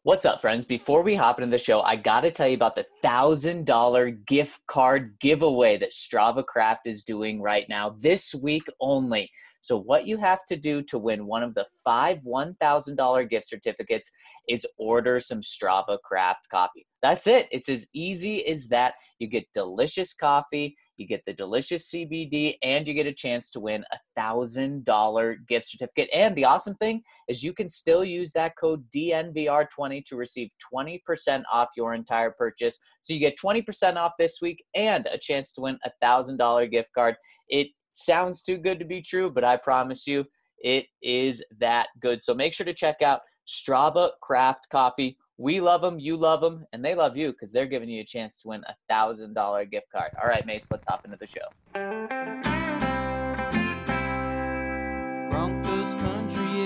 What's up, friends? Before we hop into the show, I got to tell you about the $1,000 gift card giveaway that Strava Craft is doing right now, this week only. So what you have to do to win one of the 5 $1,000 gift certificates is order some Strava Craft coffee. That's it. It's as easy as that. You get delicious coffee, you get the delicious CBD, and you get a chance to win a $1,000 gift certificate. And the awesome thing is you can still use that code DNVR20 to receive 20% off your entire purchase. So you get 20% off this week and a chance to win a $1,000 gift card. It sounds too good to be true, but I promise you it is that good. So make sure to check out Strava Craft Coffee. We love them, you love them, and they love you because they're giving you a chance to win a $1,000 gift card. All right, Mace, let's hop into the show. Broncos country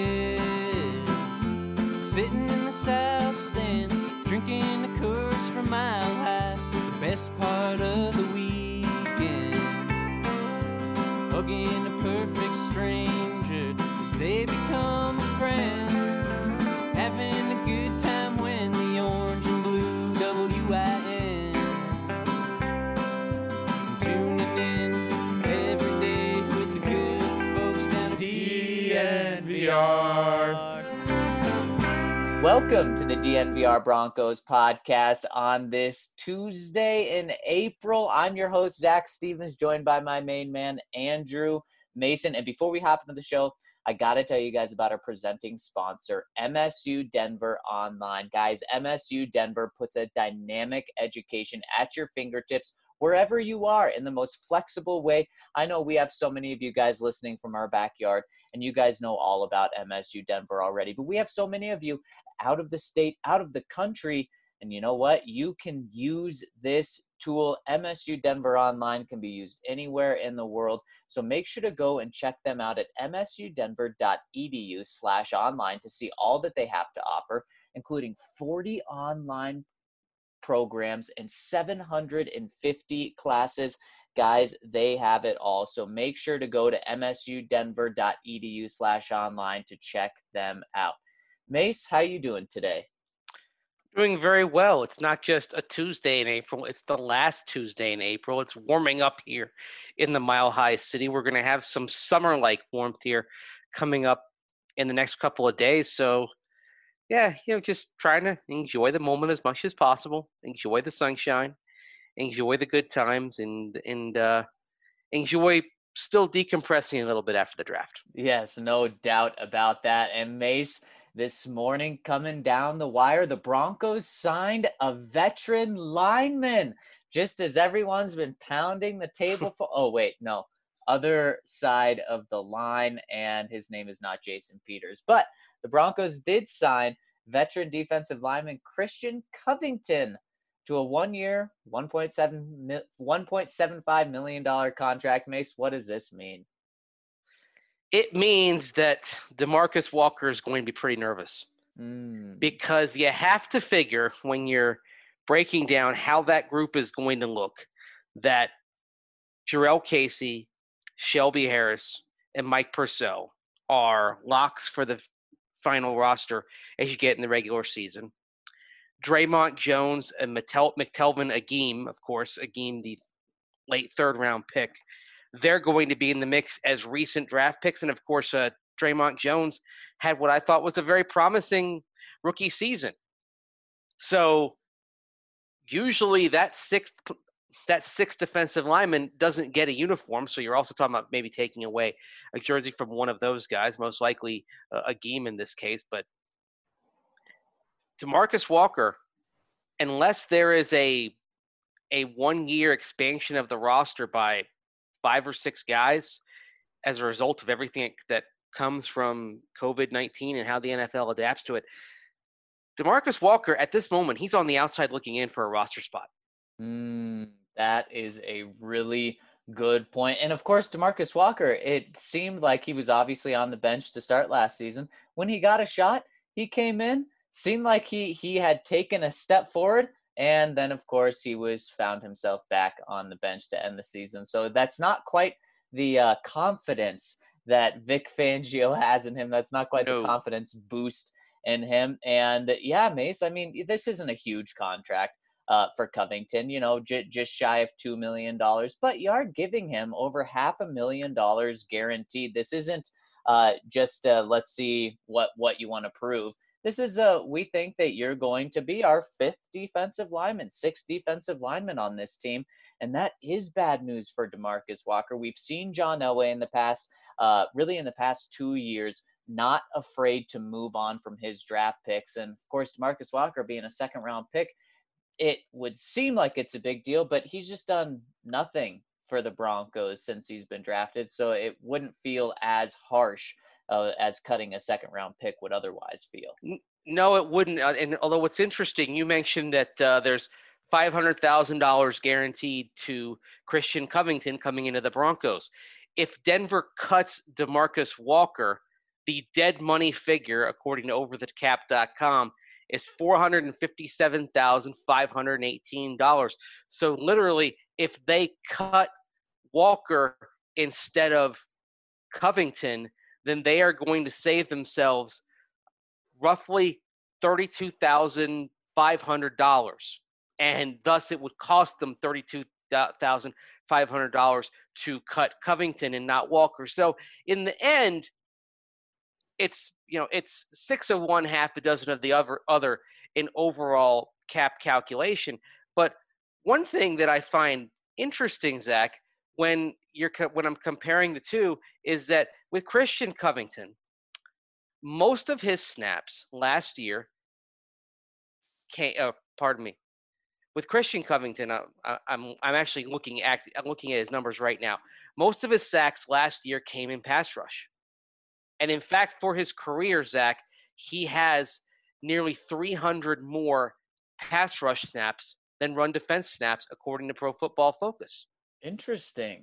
is sitting in the south stands, drinking the Coors from Mile High. The best part of the weekend, hugging a perfect stranger as they become a friend, having a good time when the orange and blue WIN, tuning in every day with the good folks down at DNVR. Welcome to the DNVR Broncos podcast on this Tuesday in April. I'm your host, Zach Stevens, joined by my main man, Andrew Mason. And before we hop into the show, I got to tell you guys about our presenting sponsor, MSU Denver Online. Guys, MSU Denver puts a dynamic education at your fingertips wherever you are in the most flexible way. I know we have so many of you guys listening from our backyard, and you guys know all about MSU Denver already, but we have so many of you out of the state, out of the country, and you know what? You can use this tool. MSU Denver Online can be used anywhere in the world. So make sure to go and check them out at msudenver.edu/online to see all that they have to offer, including 40 online programs and 750 classes. Guys, they have it all. So make sure to go to msudenver.edu/online to check them out. Mace, how you doing today? Doing very well. It's not just a Tuesday in April. It's the last Tuesday in April. It's warming up here in the Mile High City. We're going to have some summer-like warmth here coming up in the next couple of days. So, yeah, just trying to enjoy the moment as much as possible. Enjoy the sunshine. Enjoy the good times. And enjoy still decompressing a little bit after the draft. Yes, no doubt about that. And Mace, this morning coming down the wire, the Broncos signed a veteran lineman. Just as everyone's been pounding the table for, other side of the line, and his name is not Jason Peters. But the Broncos did sign veteran defensive lineman Christian Covington to a 1-year, $1.75 million contract. Mace, what does this mean? It means that DeMarcus Walker is going to be pretty nervous because you have to figure when you're breaking down how that group is going to look that Jurrell Casey, Shelby Harris, and Mike Purcell are locks for the final roster as you get in the regular season. Draymond Jones and McTelvin Agim, of course, Agim, the late third-round pick, they're going to be in the mix as recent draft picks. And, of course, Draymond Jones had what I thought was a very promising rookie season. So usually that sixth defensive lineman doesn't get a uniform. So you're also talking about maybe taking away a jersey from one of those guys, most likely Agim in this case. But DeMarcus Walker, unless there is a 1-year expansion of the roster by 5 or 6 guys as a result of everything that comes from COVID-19 and how the NFL adapts to it, DeMarcus Walker, at this moment, he's on the outside looking in for a roster spot. That is a really good point. And, of course, DeMarcus Walker, it seemed like he was obviously on the bench to start last season. When he got a shot, he came in, seemed like he had taken a step forward, and then, of course, he found himself back on the bench to end the season. So that's not quite the confidence that Vic Fangio has in him. That's not quite the confidence boost in him. And yeah, Mace, I mean, this isn't a huge contract for Covington, just shy of $2 million, but you are giving him over $500,000 guaranteed. This isn't just let's see what you want to prove. This is we think that you're going to be our fifth defensive lineman, sixth defensive lineman on this team. And that is bad news for DeMarcus Walker. We've seen John Elway in the past, really in the past 2 years, not afraid to move on from his draft picks. And of course, DeMarcus Walker being a second round pick, it would seem like it's a big deal, but he's just done nothing for the Broncos since he's been drafted. So it wouldn't feel as harsh as cutting a second round pick would otherwise feel. No, it wouldn't. And although what's interesting, you mentioned that there's $500,000 guaranteed to Christian Covington coming into the Broncos. If Denver cuts DeMarcus Walker, the dead money figure, according to overthecap.com, is $457,518. So literally, if they cut Walker instead of Covington, then they are going to save themselves roughly $32,500. And thus it would cost them $32,500 to cut Covington and not Walker. So in the end, it's 6 of one, half a dozen of the other in overall cap calculation. But one thing that I find interesting, Zach, when I'm comparing the two, is that with Christian Covington, most of his snaps last year with Christian Covington, I'm actually looking at his numbers right now. Most of his sacks last year came in pass rush. And in fact, for his career, Zach, he has nearly 300 more pass rush snaps than run defense snaps, according to Pro Football Focus. Interesting.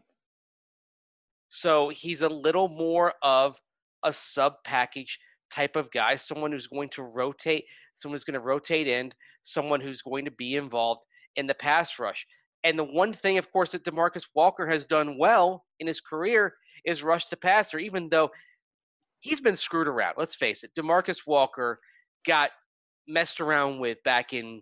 So he's a little more of a sub-package type of guy, someone who's going to rotate in, someone who's going to be involved in the pass rush. And the one thing, of course, that DeMarcus Walker has done well in his career is rush the passer, even though he's been screwed around. Let's face it. DeMarcus Walker got messed around with back in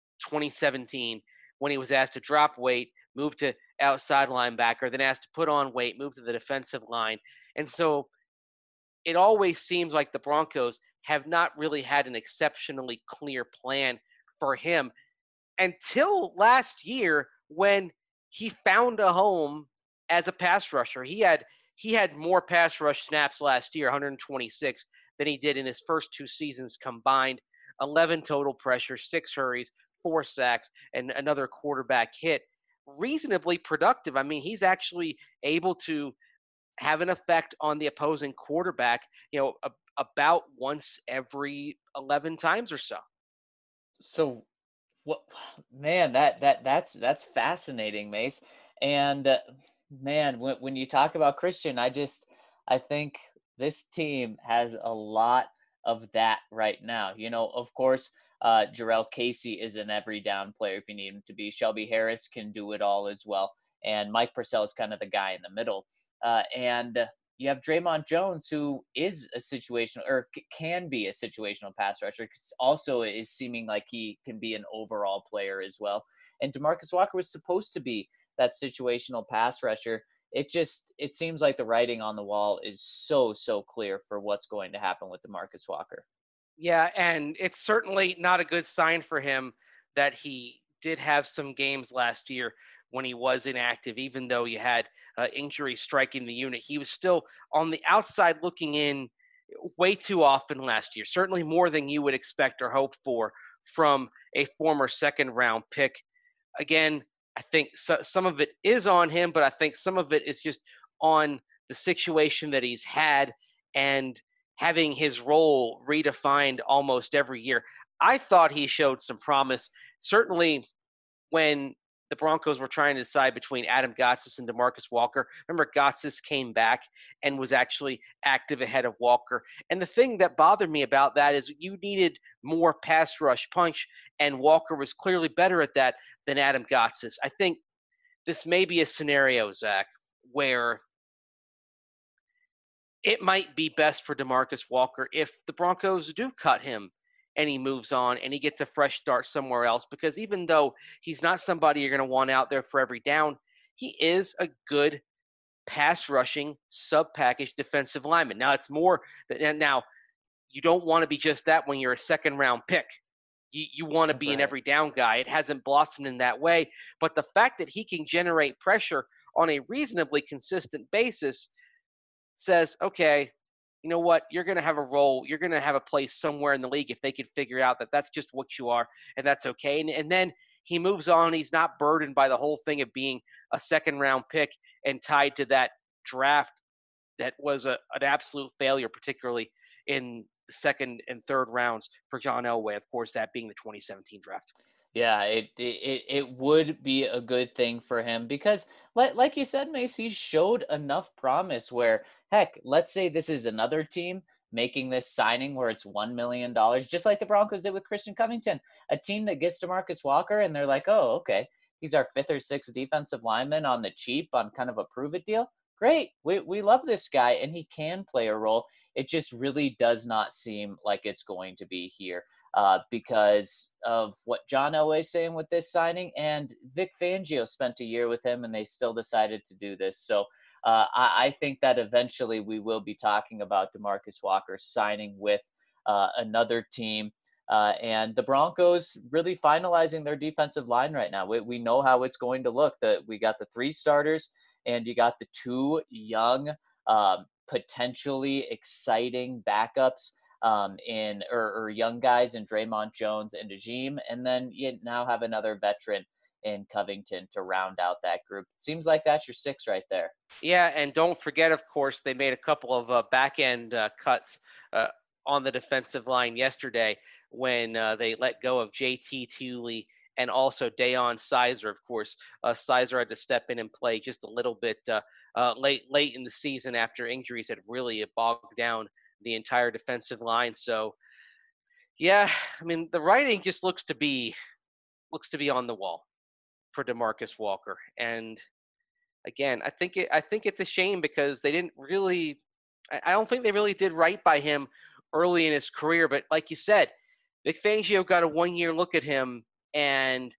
2017 when he was asked to drop weight, move to outside linebacker, then asked to put on weight, move to the defensive line. And so it always seems like the Broncos have not really had an exceptionally clear plan for him until last year when he found a home as a pass rusher. He had more pass rush snaps last year, 126, than he did in his first 2 seasons combined. 11 total pressures, 6 hurries, 4 sacks, and another quarterback hit. Reasonably productive. I mean, he's actually able to have an effect on the opposing quarterback, about once every 11 times or so. So, what, man, that's fascinating, Mace. And man, when you talk about Christian, I think this team has a lot of that right now. Of course, Jarrell Casey is an every down player if you need him to be. Shelby Harris can do it all as well. And Mike Purcell is kind of the guy in the middle. And you have Draymond Jones, who is a situational or can be a situational pass rusher, also is seeming like he can be an overall player as well. And DeMarcus Walker was supposed to be that situational pass rusher. It seems like the writing on the wall is so clear for what's going to happen with DeMarcus Walker. Yeah, and it's certainly not a good sign for him that he did have some games last year when he was inactive, even though you had injury striking the unit. He was still on the outside looking in way too often last year, certainly more than you would expect or hope for from a former second-round pick. Again, I think some of it is on him, but I think some of it is just on the situation that he's had and having his role redefined almost every year. I thought he showed some promise, certainly when the Broncos were trying to decide between Adam Gotsis and DeMarcus Walker. Remember, Gotsis came back and was actually active ahead of Walker. And the thing that bothered me about that is you needed more pass rush punch, and Walker was clearly better at that than Adam Gotsis. I think this may be a scenario, Zach, where it might be best for DeMarcus Walker if the Broncos do cut him and he moves on and he gets a fresh start somewhere else, because even though he's not somebody you're going to want out there for every down, he is a good pass rushing sub package defensive lineman. Now it's more that now you don't want to be just that when you're a second round pick. You want to be an every down guy. It hasn't blossomed in that way, but the fact that he can generate pressure on a reasonably consistent basis says, okay, you know what? You're going to have a role. You're going to have a place somewhere in the league if they can figure out that that's just what you are, and that's okay. And then he moves on. He's not burdened by the whole thing of being a second-round pick and tied to that draft that was an absolute failure, particularly in the second and third rounds for John Elway, of course, that being the 2017 draft. Yeah, it would be a good thing for him because, like you said, Mace, he showed enough promise where, heck, let's say this is another team making this signing where it's $1 million, just like the Broncos did with Christian Covington, a team that gets DeMarcus Walker and they're like, oh, okay, he's our 5th or 6th defensive lineman on the cheap on kind of a prove it deal. Great, we love this guy and he can play a role. It just really does not seem like it's going to be here. Because of what John Elway is saying with this signing, and Vic Fangio spent a year with him and they still decided to do this. So I think that eventually we will be talking about DeMarcus Walker signing with another team. And the Broncos really finalizing their defensive line right now. We know how it's going to look. We got the 3 starters and you got the 2 young, potentially exciting backups or young guys in Draymond Jones and Najim, and then you now have another veteran in Covington to round out that group. Seems like that's your 6 right there. Yeah, and don't forget, of course, they made a couple of back-end cuts on the defensive line yesterday when they let go of J.T. Thule and also Deion Sizer. Of course, Sizer had to step in and play just a little bit late in the season after injuries had really bogged down the entire defensive line. So, yeah, I mean, the writing just looks to be on the wall for DeMarcus Walker. And again, I think it's a shame because they didn't really. I don't think they really did right by him early in his career. But like you said, Vic Fangio got a 1-year look at him, and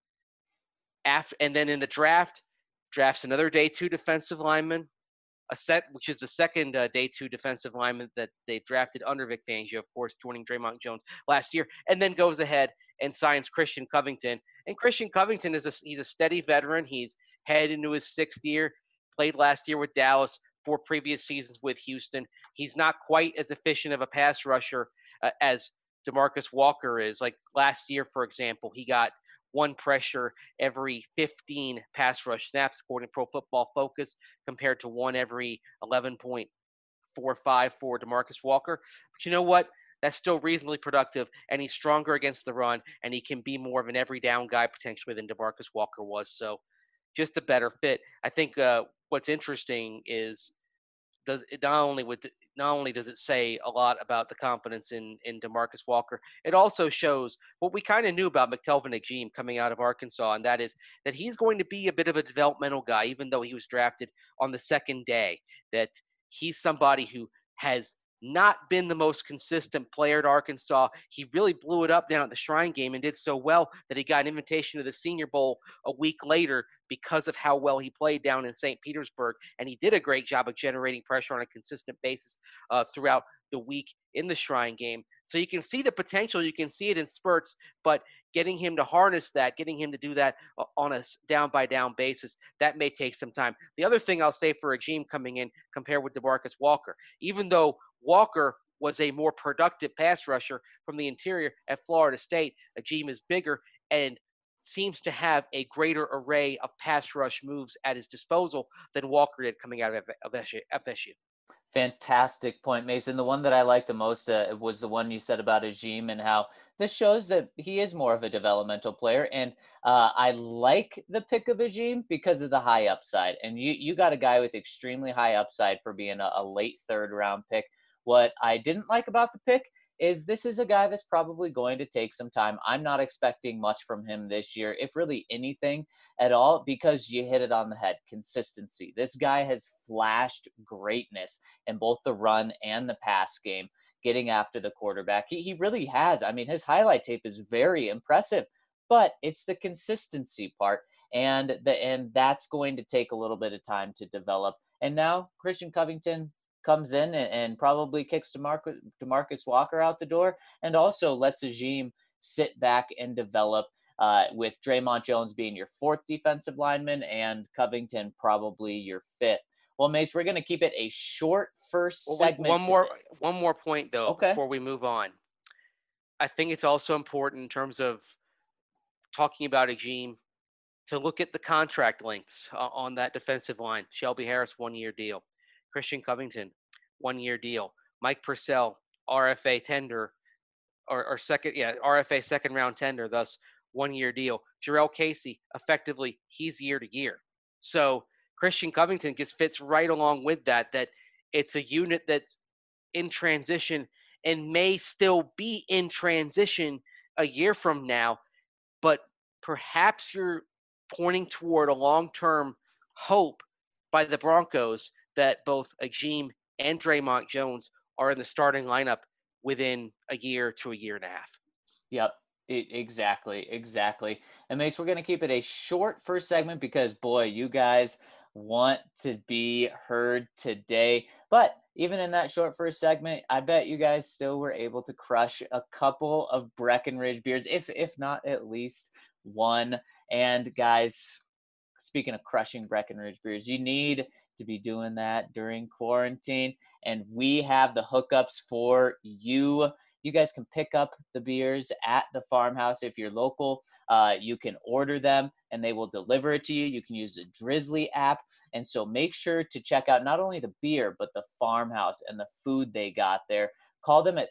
then in the drafts another day 2 defensive lineman, which is the second day 2 defensive lineman that they drafted under Vic Fangio, of course, joining Draymond Jones last year, and then goes ahead and signs Christian Covington. And Christian Covington he's a steady veteran. He's headed into his 6th year, played last year with Dallas, 4 previous seasons with Houston. He's not quite as efficient of a pass rusher as DeMarcus Walker is. Like last year, for example, he got 1 pressure every 15 pass rush snaps, according to Pro Football Focus, compared to 1 every 11.45 for DeMarcus Walker. But you know what? That's still reasonably productive, and he's stronger against the run, and he can be more of an every down guy potentially than DeMarcus Walker was. So just a better fit. I think what's interesting is not only does it say a lot about the confidence in DeMarcus Walker, it also shows what we kind of knew about McTelvin Najim coming out of Arkansas, and that is that he's going to be a bit of a developmental guy, even though he was drafted on the 2nd day, that he's somebody who has not been the most consistent player at Arkansas. He really blew it up down at the Shrine Game and did so well that he got an invitation to the Senior Bowl a week later because of how well he played down in St. Petersburg. And he did a great job of generating pressure on a consistent basis throughout the week in the Shrine Game. So you can see the potential. You can see it in spurts, but getting him to harness that, getting him to do that on a down-by-down basis, that may take some time. The other thing I'll say for Najim coming in compared with DeMarcus Walker, even though Walker was a more productive pass rusher from the interior at Florida State, Najim is bigger and seems to have a greater array of pass rush moves at his disposal than Walker did coming out of FSU. Fantastic point, Mason. The one that I liked the most was the one you said about Najim and how this shows that he is more of a developmental player. And I like the pick of Najim because of the high upside. And you got a guy with extremely high upside for being a late 3rd round pick. What I didn't like about the pick is this is a guy that's probably going to take some time. I'm not expecting much from him this year, if really anything at all, because you hit it on the head. Consistency. This guy has flashed greatness in both the run and the pass game, getting after the quarterback. He really has. I mean, his highlight tape is very impressive, but it's the consistency part. And that's going to take a little bit of time to develop. And now Christian Covington comes in and probably kicks Demarcus Walker out the door, and also lets Agim sit back and develop, with Draymond Jones being your fourth defensive lineman and Covington probably your fifth. Well, Mace, we're going to keep it a short first segment. One more point, though, okay, before we move on. I think it's also important in terms of talking about Agim to look at the contract lengths on that defensive line. Shelby Harris, 1-year deal. Christian Covington, 1-year deal. Mike Purcell, RFA tender, or RFA second round tender, thus 1-year deal. Jarrell Casey, effectively, he's year to year. So Christian Covington just fits right along with that it's a unit that's in transition and may still be in transition a year from now, but perhaps you're pointing toward a long-term hope by the Broncos that both Agim and Draymond Jones are in the starting lineup within a year to a year and a half. Yep. Exactly. And Mace, we're going to keep it a short first segment because, boy, you guys want to be heard today. But even in that short first segment, I bet you guys still were able to crush a couple of Breckenridge beers, if not at least one. And guys, speaking of crushing Breckenridge beers, you need to be doing that during quarantine. And we have the hookups for you. You guys can pick up the beers at the farmhouse. If you're local, you can order them and they will deliver it to you. You can use the Drizzly app. And so make sure to check out not only the beer, but the farmhouse and the food they got there. Call them at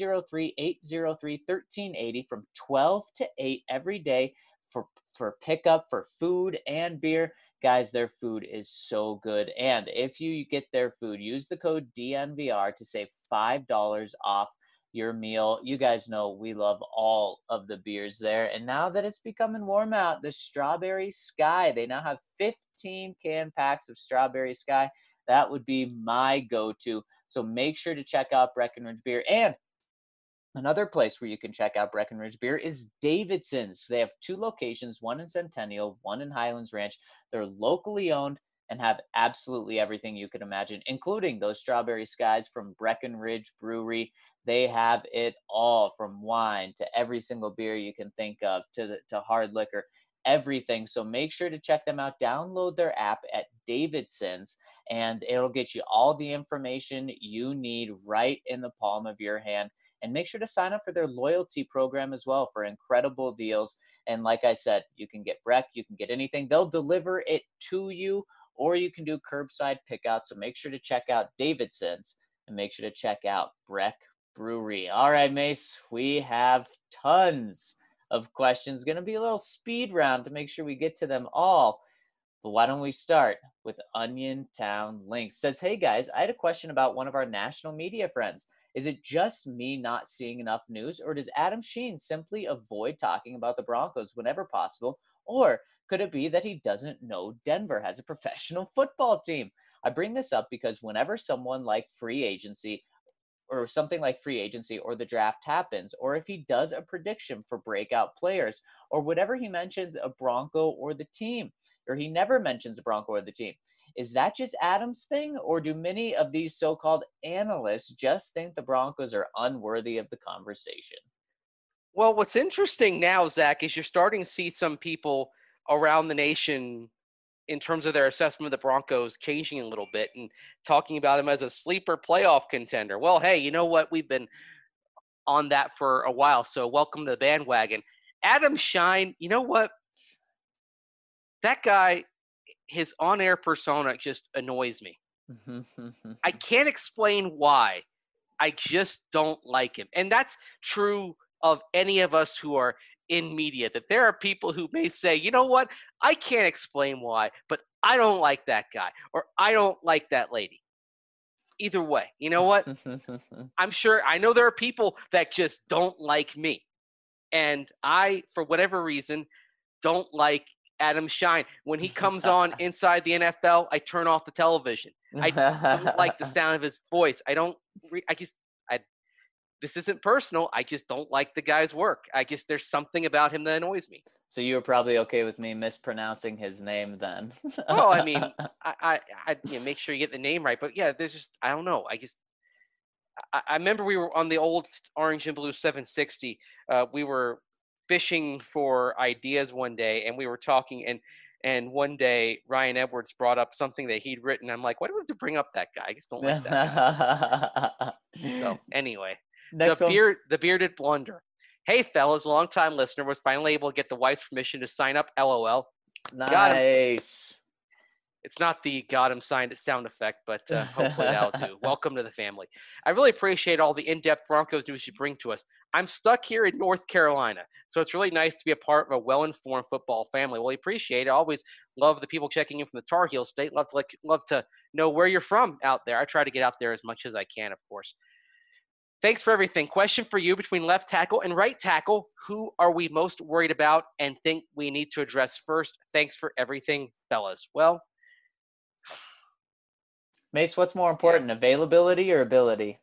303-803-1380 from 12 to 8 every day for pickup for food and beer. Guys, their food is so good. And if you get their food, use the code DNVR to save $5 off your meal. You guys know we love all of the beers there. And now that it's becoming warm out, the Strawberry Sky, they now have 15 can packs of Strawberry Sky. That would be my go-to. So make sure to check out Breckenridge Beer. And another place where you can check out Breckenridge Beer is Davidson's. They have 2 locations, one in Centennial, one in Highlands Ranch. They're locally owned and have absolutely everything you could imagine, including those Strawberry Skies from Breckenridge Brewery. They have it all, from wine to every single beer you can think of, to hard liquor, everything. So make sure to check them out. Download their app at Davidson's, and it'll get you all the information you need right in the palm of your hand. And make sure to sign up for their loyalty program as well for incredible deals. And like I said, you can get Breck, you can get anything. They'll deliver it to you, or you can do curbside pickout. So make sure to check out Davidson's and make sure to check out Breck Brewery. All right, Mace, we have tons of questions. Going to be a little speed round to make sure we get to them all. But why don't we start with Onion Town Links? Says, hey guys, I had a question about one of our national media friends. Is it just me not seeing enough news, or does Adam Sheen simply avoid talking about the Broncos whenever possible? Or could it be that he doesn't know Denver has a professional football team? I bring this up because whenever something like free agency or the draft happens, or if he does a prediction for breakout players, or whatever he mentions a Bronco or the team, or he never mentions a Bronco or the team, is that just Adam's thing, or do many of these so-called analysts just think the Broncos are unworthy of the conversation? Well, what's interesting now, Zach, is you're starting to see some people around the nation, in terms of their assessment of the Broncos, changing a little bit and talking about them as a sleeper playoff contender. Well, hey, you know what? We've been on that for a while, so welcome to the bandwagon. Adam Shine, you know what? That guy, his on-air persona just annoys me. I can't explain why. I just don't like him. And that's true of any of us who are in media, that there are people who may say, you know what, I can't explain why, but I don't like that guy, or I don't like that lady. either way. You know what? I know there are people that just don't like me. And I, for whatever reason, don't like Adam Shine. When he comes on Inside the NFL, I turn off the television. I don't like the sound of his voice. This isn't personal. I just don't like the guy's work. There's something about him that annoys me. So you were probably okay with me mispronouncing his name then. Well, I mean, I make sure you get the name right. But yeah, there's just, I don't know. I remember we were on the old Orange and Blue 760. We were fishing for ideas one day, and we were talking, and one day Ryan Edwards brought up something that he'd written. I'm like, why do we have to bring up that guy? I just don't like that guy. So anyway, the bearded blunder. Hey, fellas, long-time listener, was finally able to get the wife's permission to sign up. LOL. Nice. It's not the got him signed sound effect, but hopefully that'll do. Welcome to the family. I really appreciate all the in-depth Broncos news you bring to us. I'm stuck here in North Carolina, so it's really nice to be a part of a well-informed football family. Well, we appreciate it. I always love the people checking in from the Tar Heel State. Love to know where you're from out there. I try to get out there as much as I can, of course. Thanks for everything. Question for you: between left tackle and right tackle, who are we most worried about and think we need to address first? Thanks for everything, fellas. Well, Mace, what's more important, availability or ability?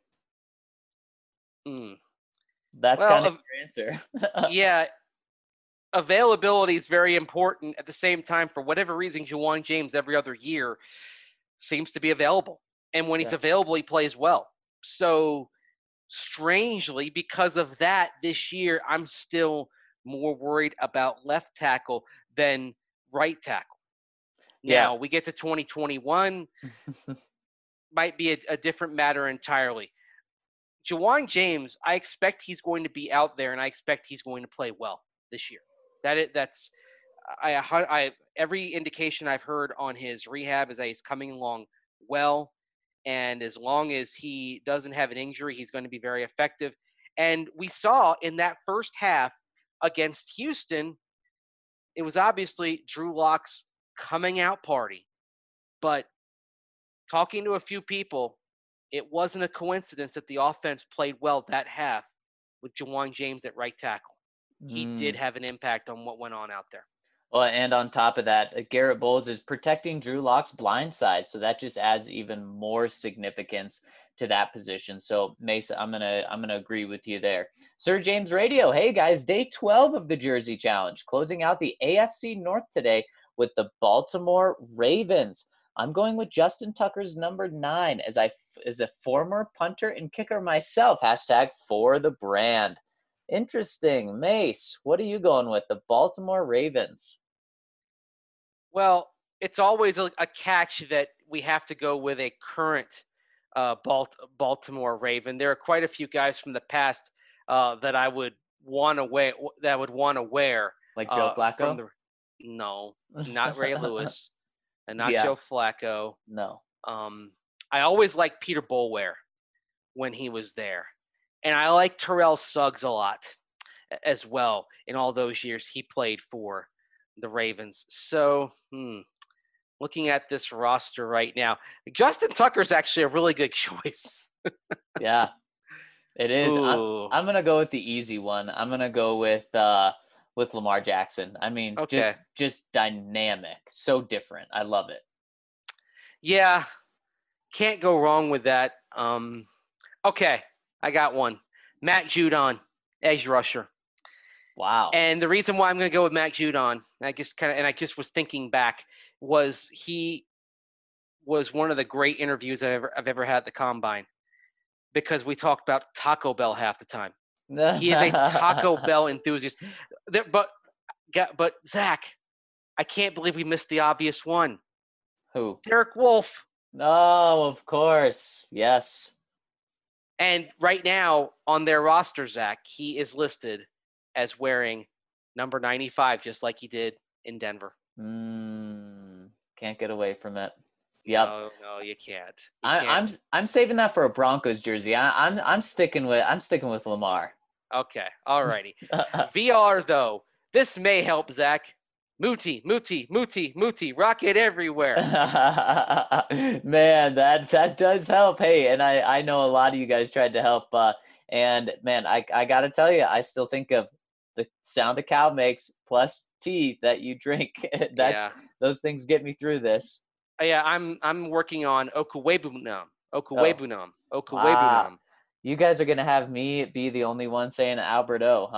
That's kind of your answer. Yeah, availability is very important. At the same time, for whatever reason, Ja'Wuan James every other year seems to be available. And when he's available, he plays well. So strangely, because of that, this year, I'm still more worried about left tackle than right tackle. Now, we get to 2021, might be a different matter entirely. Ja'Wuan James, I expect he's going to be out there, and I expect he's going to play well this year. Every indication I've heard on his rehab is that he's coming along well, and as long as he doesn't have an injury, he's going to be very effective. And we saw in that first half against Houston, it was obviously Drew Lock's coming out party, but talking to a few people, it wasn't a coincidence that the offense played well that half with Ja'Wuan James at right tackle. He did have an impact on what went on out there. Well, and on top of that, Garrett Bowles is protecting Drew Lock's blind side, so that just adds even more significance to that position. So, Mace, I'm gonna agree with you there. Sir James Radio, hey guys, day 12 of the Jersey Challenge, closing out the AFC North today with the Baltimore Ravens. I'm going with Justin Tucker's number 9 as a former punter and kicker myself. # for the brand. Interesting. Mace, what are you going with? The Baltimore Ravens. Well, it's always a catch that we have to go with a current Baltimore Raven. There are quite a few guys from the past that I would want to wear. Like Joe Flacco? No, not Ray Lewis. And not Joe Flacco. No. I always liked Peter Boulware when he was there. And I like Terrell Suggs a lot as well in all those years he played for the Ravens. So, looking at this roster right now, Justin Tucker's actually a really good choice. Yeah, it is. I'm going to go with the easy one. I'm going to go with Lamar Jackson. I mean, just dynamic, so different. I love it. Yeah, can't go wrong with that. Okay, I got one. Matt Judon, edge rusher. Wow. And the reason why I'm going to go with Matt Judon, I just was thinking back, was he was one of the great interviews I've ever had at the Combine, because we talked about Taco Bell half the time. He is a Taco Bell enthusiast. But Zach, I can't believe we missed the obvious one. Who? Derek Wolfe. Oh, of course. Yes. And right now on their roster, Zach, he is listed as wearing number 95, just like he did in Denver. Can't get away from it. Yep. No, you can't. I'm saving that for a Broncos jersey. I'm sticking with Lamar. Okay. All righty. VR though, this may help Zach. Muti, Muti, Muti, Muti, rocket everywhere. Man, that does help. Hey, and I know a lot of you guys tried to help. And man, I gotta tell you, I still think of the sound a cow makes plus tea that you drink. That's Yeah. those things get me through this. Yeah, I'm working on Okuwebunam. Oh, Okuwebunam. wow. Okuwebunam. You guys are gonna have me be the only one saying Albert O,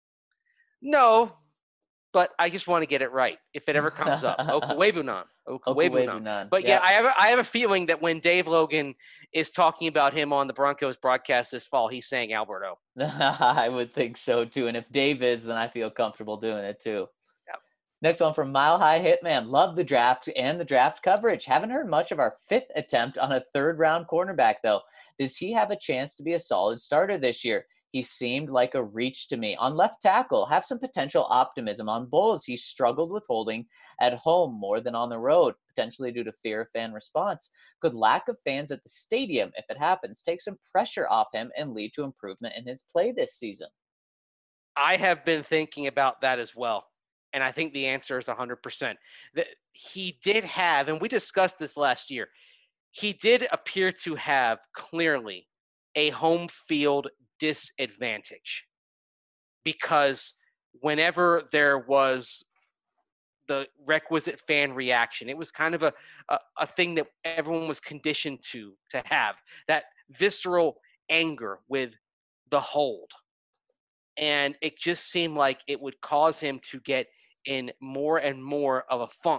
No, but I just want to get it right if it ever comes up. huh? Okuwebunam. Okuwebunam. Okuwebunan. But yeah, Yep. I have a feeling that when Dave Logan is talking about him on the Broncos broadcast this fall, he's saying Alberto. I would think so too. And if Dave is, then I feel comfortable doing it too. Yep. Next one from Mile High Hitman. Love the draft and the draft coverage. Haven't heard much of our 5th attempt on a 3rd round cornerback, though. Does he have a chance to be a solid starter this year? He seemed like a reach to me. On left tackle, have some potential optimism. On Bulls, he struggled with holding at home more than on the road, potentially due to fear of fan response. Could lack of fans at the stadium, if it happens, take some pressure off him and lead to improvement in his play this season? I have been thinking about that as well. And I think the answer is 100%. That he did have, and we discussed this last year, he did appear to have clearly a home field disadvantage because whenever there was the requisite fan reaction, it was kind of a thing that everyone was conditioned to have, that visceral anger with the hold. And it just seemed like it would cause him to get in more and more of a funk.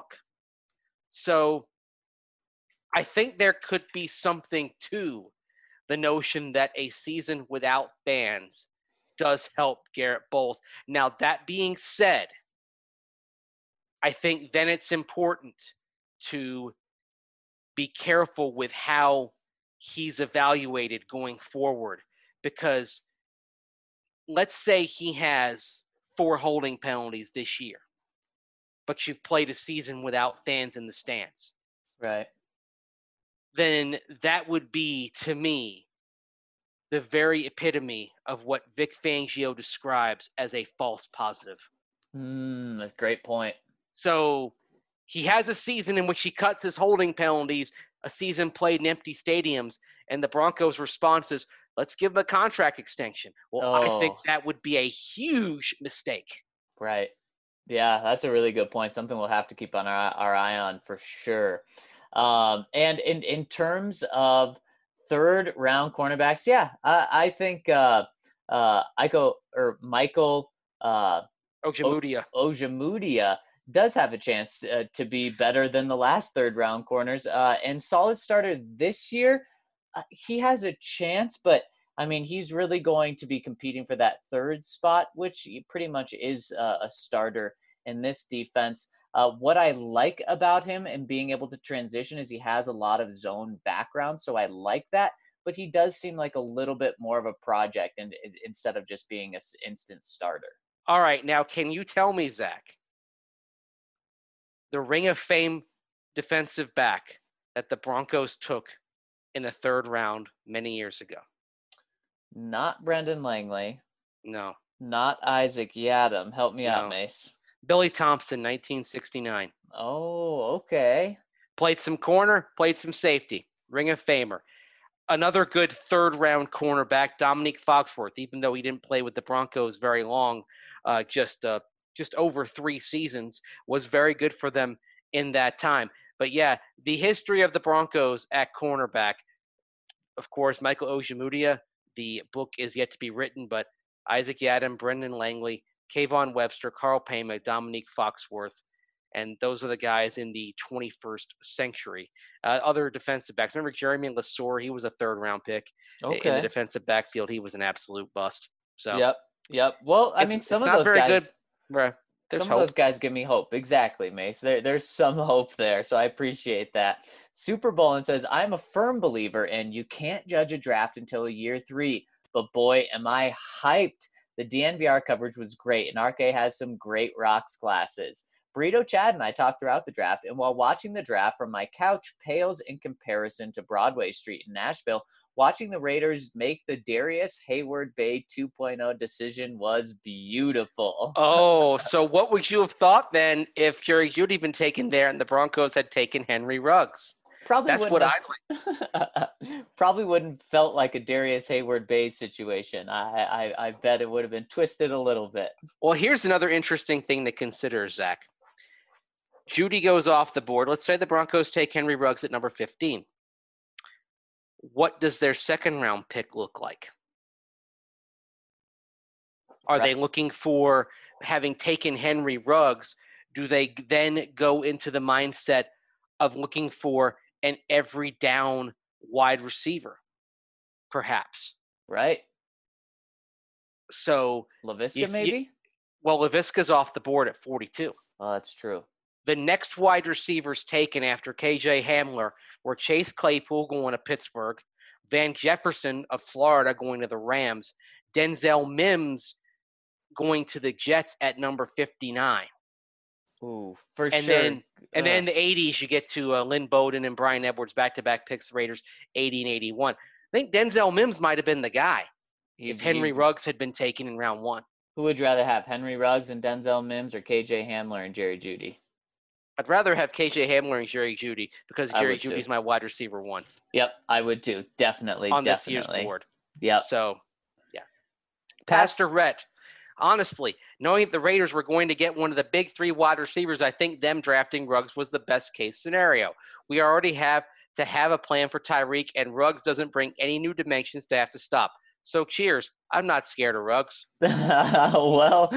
So I think there could be something to the notion that a season without fans does help Garrett Bowles. Now, that being said, I think then it's important to be careful with how he's evaluated going forward, because let's say he has 4 holding penalties this year, but you've played a season without fans in the stands. Right. Then that would be, to me, the very epitome of what Vic Fangio describes as a false positive. That's a great point. So he has a season in which he cuts his holding penalties, a season played in empty stadiums, and the Broncos' response is, let's give him a contract extension. Well, I think that would be a huge mistake. Right. Yeah, that's a really good point. Something we'll have to keep on our eye on for sure. And in terms of 3rd round cornerbacks, yeah, I think Michael Ojemudia does have a chance to be better than the last 3rd round corners. And solid starter this year, he has a chance, but I mean, he's really going to be competing for that 3rd spot, which pretty much is a starter in this defense. What I like about him and being able to transition is he has a lot of zone background, so I like that. But he does seem like a little bit more of a project instead of just being an instant starter. All right, now can you tell me, Zach, the Ring of Fame defensive back that the Broncos took in the 3rd round many years ago? Not Brendan Langley. No. Not Isaac Yiadom. Help me out, Mace. Billy Thompson, 1969. Oh, okay. Played some corner, played some safety. Ring of Famer. Another good 3rd round cornerback, Dominique Foxworth, even though he didn't play with the Broncos very long, just over 3 seasons, was very good for them in that time. But yeah, the history of the Broncos at cornerback, of course, Michael Ojemudia, the book is yet to be written, but Isaac Yiadom, Brendan Langley, Kayvon Webster, Carl Payma, Dominique Foxworth, and those are the guys in the 21st century. Other defensive backs. Remember Jeremy Lesore? He was a 3rd round pick in the defensive backfield. He was an absolute bust. So Yep. Well, I mean, some of those guys. Some of those guys give me hope. Exactly, Mace. There's some hope there, so I appreciate that. Super Bowl and says, I'm a firm believer in you can't judge a draft until year 3, but boy, am I hyped. The DNVR coverage was great, and RK has some great rocks classes. Burrito Chad and I talked throughout the draft, and while watching the draft from my couch pales in comparison to Broadway Street in Nashville, watching the Raiders make the Darius Hayward-Bay 2.0 decision was beautiful. Oh, so what would you have thought then if Jerry Jeudy been taken there and the Broncos had taken Henry Ruggs? That's what probably wouldn't felt like a Darius Hayward-Bay situation. I bet it would have been twisted a little bit. Well, here's another interesting thing to consider, Zach. Jeudy goes off the board. Let's say the Broncos take Henry Ruggs at number 15. What does their second round pick look like? Are they looking for, having taken Henry Ruggs, do they then go into the mindset of looking for an every down wide receiver, perhaps? Right. So Laviska, maybe? Well, Laviska's off the board at 42. Oh, that's true. The next wide receivers taken after KJ Hamler were Chase Claypool going to Pittsburgh, Van Jefferson of Florida going to the Rams, Denzel Mims going to the Jets at number 59. Ooh, for and sure. Then in the 80s, you get to Lynn Bowden and Brian Edwards, back-to-back picks, Raiders, 80 and 81. I think Denzel Mims might have been the guy if Henry Ruggs had been taken in round 1. Who would you rather have, Henry Ruggs and Denzel Mims or KJ Hamler and Jerry Jeudy? I'd rather have KJ Hamler and Jerry Jeudy because Jerry Jeudy's my wide receiver 1. Yep, I would too. Definitely. This year's board. Yep. So, yeah. Pastor Rhett. Honestly, knowing that the Raiders were going to get one of the big 3 wide receivers, I think them drafting Ruggs was the best case scenario. We already have to have a plan for Tyreek, and Ruggs doesn't bring any new dimensions to have to stop. So cheers. I'm not scared of Ruggs. Well,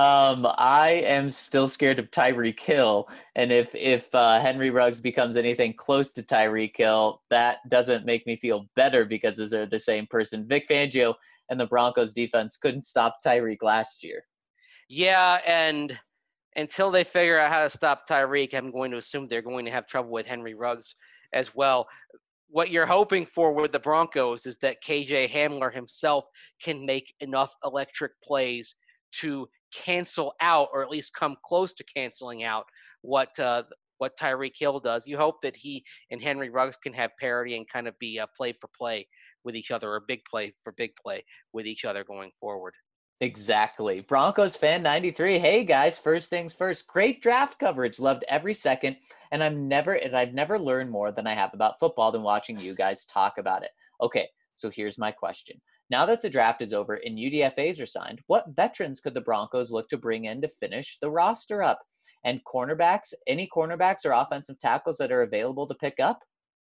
I am still scared of Tyreek Hill. And if Henry Ruggs becomes anything close to Tyreek Hill, that doesn't make me feel better because they're the same person. Vic Fangio and the Broncos defense couldn't stop Tyreek last year. Yeah, and until they figure out how to stop Tyreek, I'm going to assume they're going to have trouble with Henry Ruggs as well. What you're hoping for with the Broncos is that KJ Hamler himself can make enough electric plays to cancel out, or at least come close to canceling out, what Tyreek Hill does. You hope that he and Henry Ruggs can have parity and kind of be play for play with each other, or big play for big play with each other going forward. Exactly. Broncos fan 93. Hey guys, first things first. Great draft coverage. Loved every second. And I've never learned more than I have about football than watching you guys talk about it. Okay, so here's my question. Now that the draft is over and UDFAs are signed, what veterans could the Broncos look to bring in to finish the roster up? And cornerbacks, any cornerbacks or offensive tackles that are available to pick up?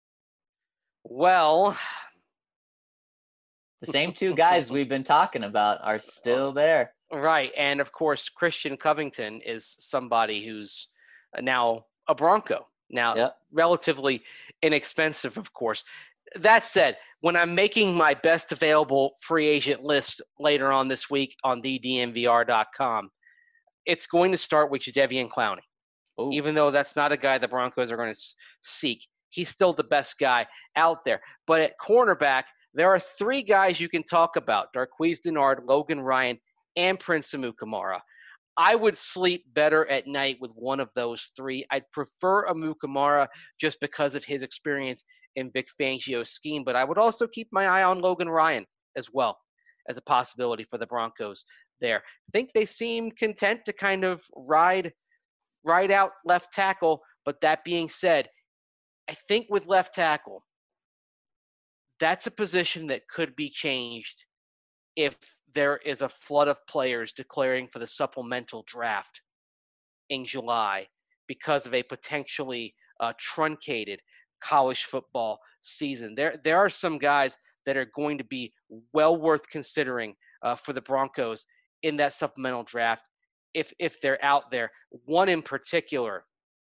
Well, the same 2 guys we've been talking about are still there. Right. And of course, Christian Covington is somebody who's now a Bronco. Now, relatively inexpensive, of course. That said, when I'm making my best available free agent list later on this week on thednvr.com, it's going to start with Jadeveon Clowney. Ooh. Even though that's not a guy the Broncos are going to seek. He's still the best guy out there. But at cornerback, there are 3 guys you can talk about: Darqueze Dennard, Logan Ryan, and Prince Amukamara. I would sleep better at night with one of those 3. I'd prefer Amukamara just because of his experience in Vic Fangio's scheme, but I would also keep my eye on Logan Ryan as well as a possibility for the Broncos there. I think they seem content to kind of ride out left tackle, but that being said, I think with left tackle, that's a position that could be changed if there is a flood of players declaring for the supplemental draft in July because of a potentially truncated college football season. There are some guys that are going to be well worth considering for the Broncos in that supplemental draft if they're out there. One in particular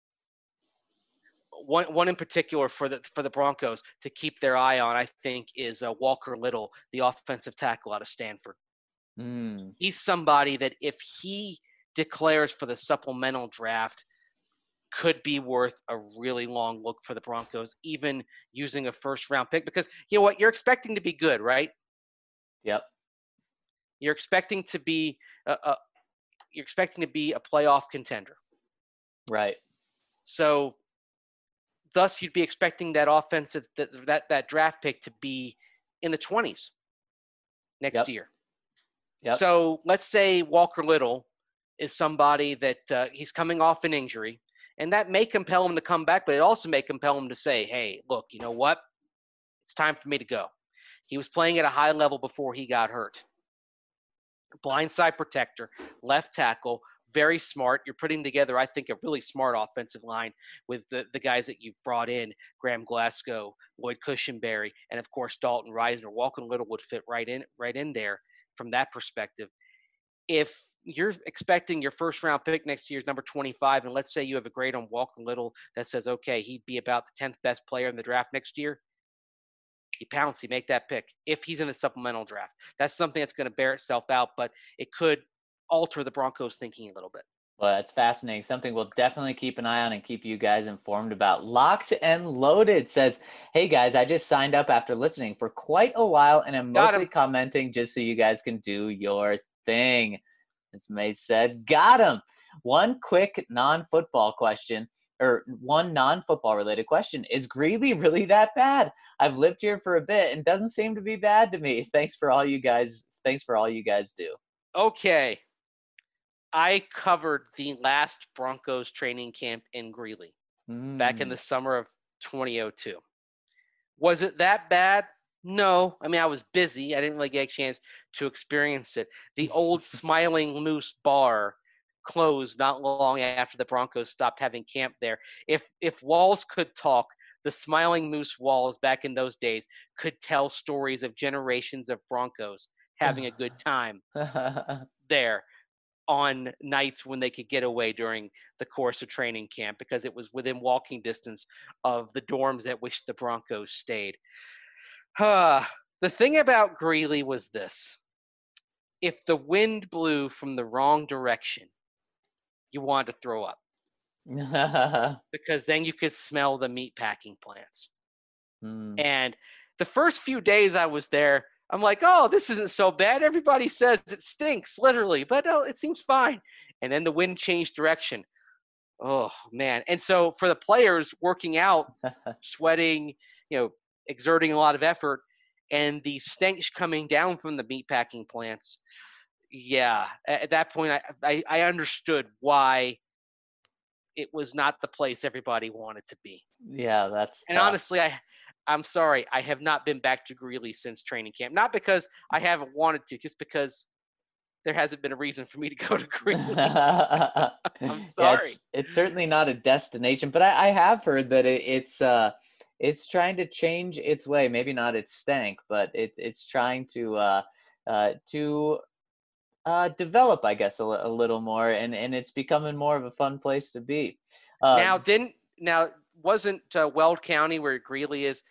for the Broncos to keep their eye on, I think, is Walker Little, the offensive tackle out of Stanford. He's somebody that if he declares for the supplemental draft, could be worth a really long look for the Broncos, even using a first-round pick. Because you know what? You're expecting to be good, right? Yep. You're expecting to be a playoff contender. Right. So thus you'd be expecting that offensive that draft pick to be in the 20s next year. Yep. So let's say Walker Little is somebody that he's coming off an injury, and that may compel him to come back, but it also may compel him to say, hey, look, you know what? It's time for me to go. He was playing at a high level before he got hurt. Blindside protector, left tackle, very smart. You're putting together, I think, a really smart offensive line with the guys that you've brought in, Graham Glasgow, Lloyd Cushenberry, and, of course, Dalton Reisner. Walker Little would fit right in there from that perspective. If you're expecting your first-round pick next year is number 25, and let's say you have a grade on Walker Little that says, okay, he'd be about the 10th best player in the draft next year, you pounce, you make that pick if he's in the supplemental draft. That's something that's going to bear itself out, but it could alter the Broncos' thinking a little bit. Well, that's fascinating. Something we'll definitely keep an eye on and keep you guys informed about. Locked and Loaded says, hey, guys, I just signed up after listening for quite a while, and I'm mostly commenting just so you guys can do your thing. As May said, got him. One quick non-football question, or one non-football related question. Is Greeley really that bad? I've lived here for a bit and doesn't seem to be bad to me. Thanks for all you guys do. Okay. I covered the last Broncos training camp in Greeley back in the summer of 2002. Was it that bad? No. I mean, I was busy. I didn't really get a chance to experience it. The old Smiling Moose bar closed not long after the Broncos stopped having camp there. If walls could talk, the Smiling Moose walls back in those days could tell stories of generations of Broncos having a good time there on nights when they could get away during the course of training camp because it was within walking distance of the dorms at which the Broncos stayed. The thing about Greeley was this. If the wind blew from the wrong direction, you wanted to throw up because then you could smell the meat packing plants. And the first few days I was there, I'm like, oh, this isn't so bad. Everybody says it stinks, literally, but it seems fine. And then the wind changed direction. Oh, man. And so for the players working out, sweating, exerting a lot of effort, and the stench coming down from the meatpacking plants, yeah, at that point, I understood why it was not the place everybody wanted to be. Yeah, that's and tough. Honestly, I'm sorry, I have not been back to Greeley since training camp. Not because I haven't wanted to, just because there hasn't been a reason for me to go to Greeley. I'm sorry. Yeah, it's certainly not a destination, but I have heard that it's trying to change its way. Maybe not its stank, but it's trying to develop, I guess, a little more, and it's becoming more of a fun place to be. Wasn't Weld County, where Greeley is,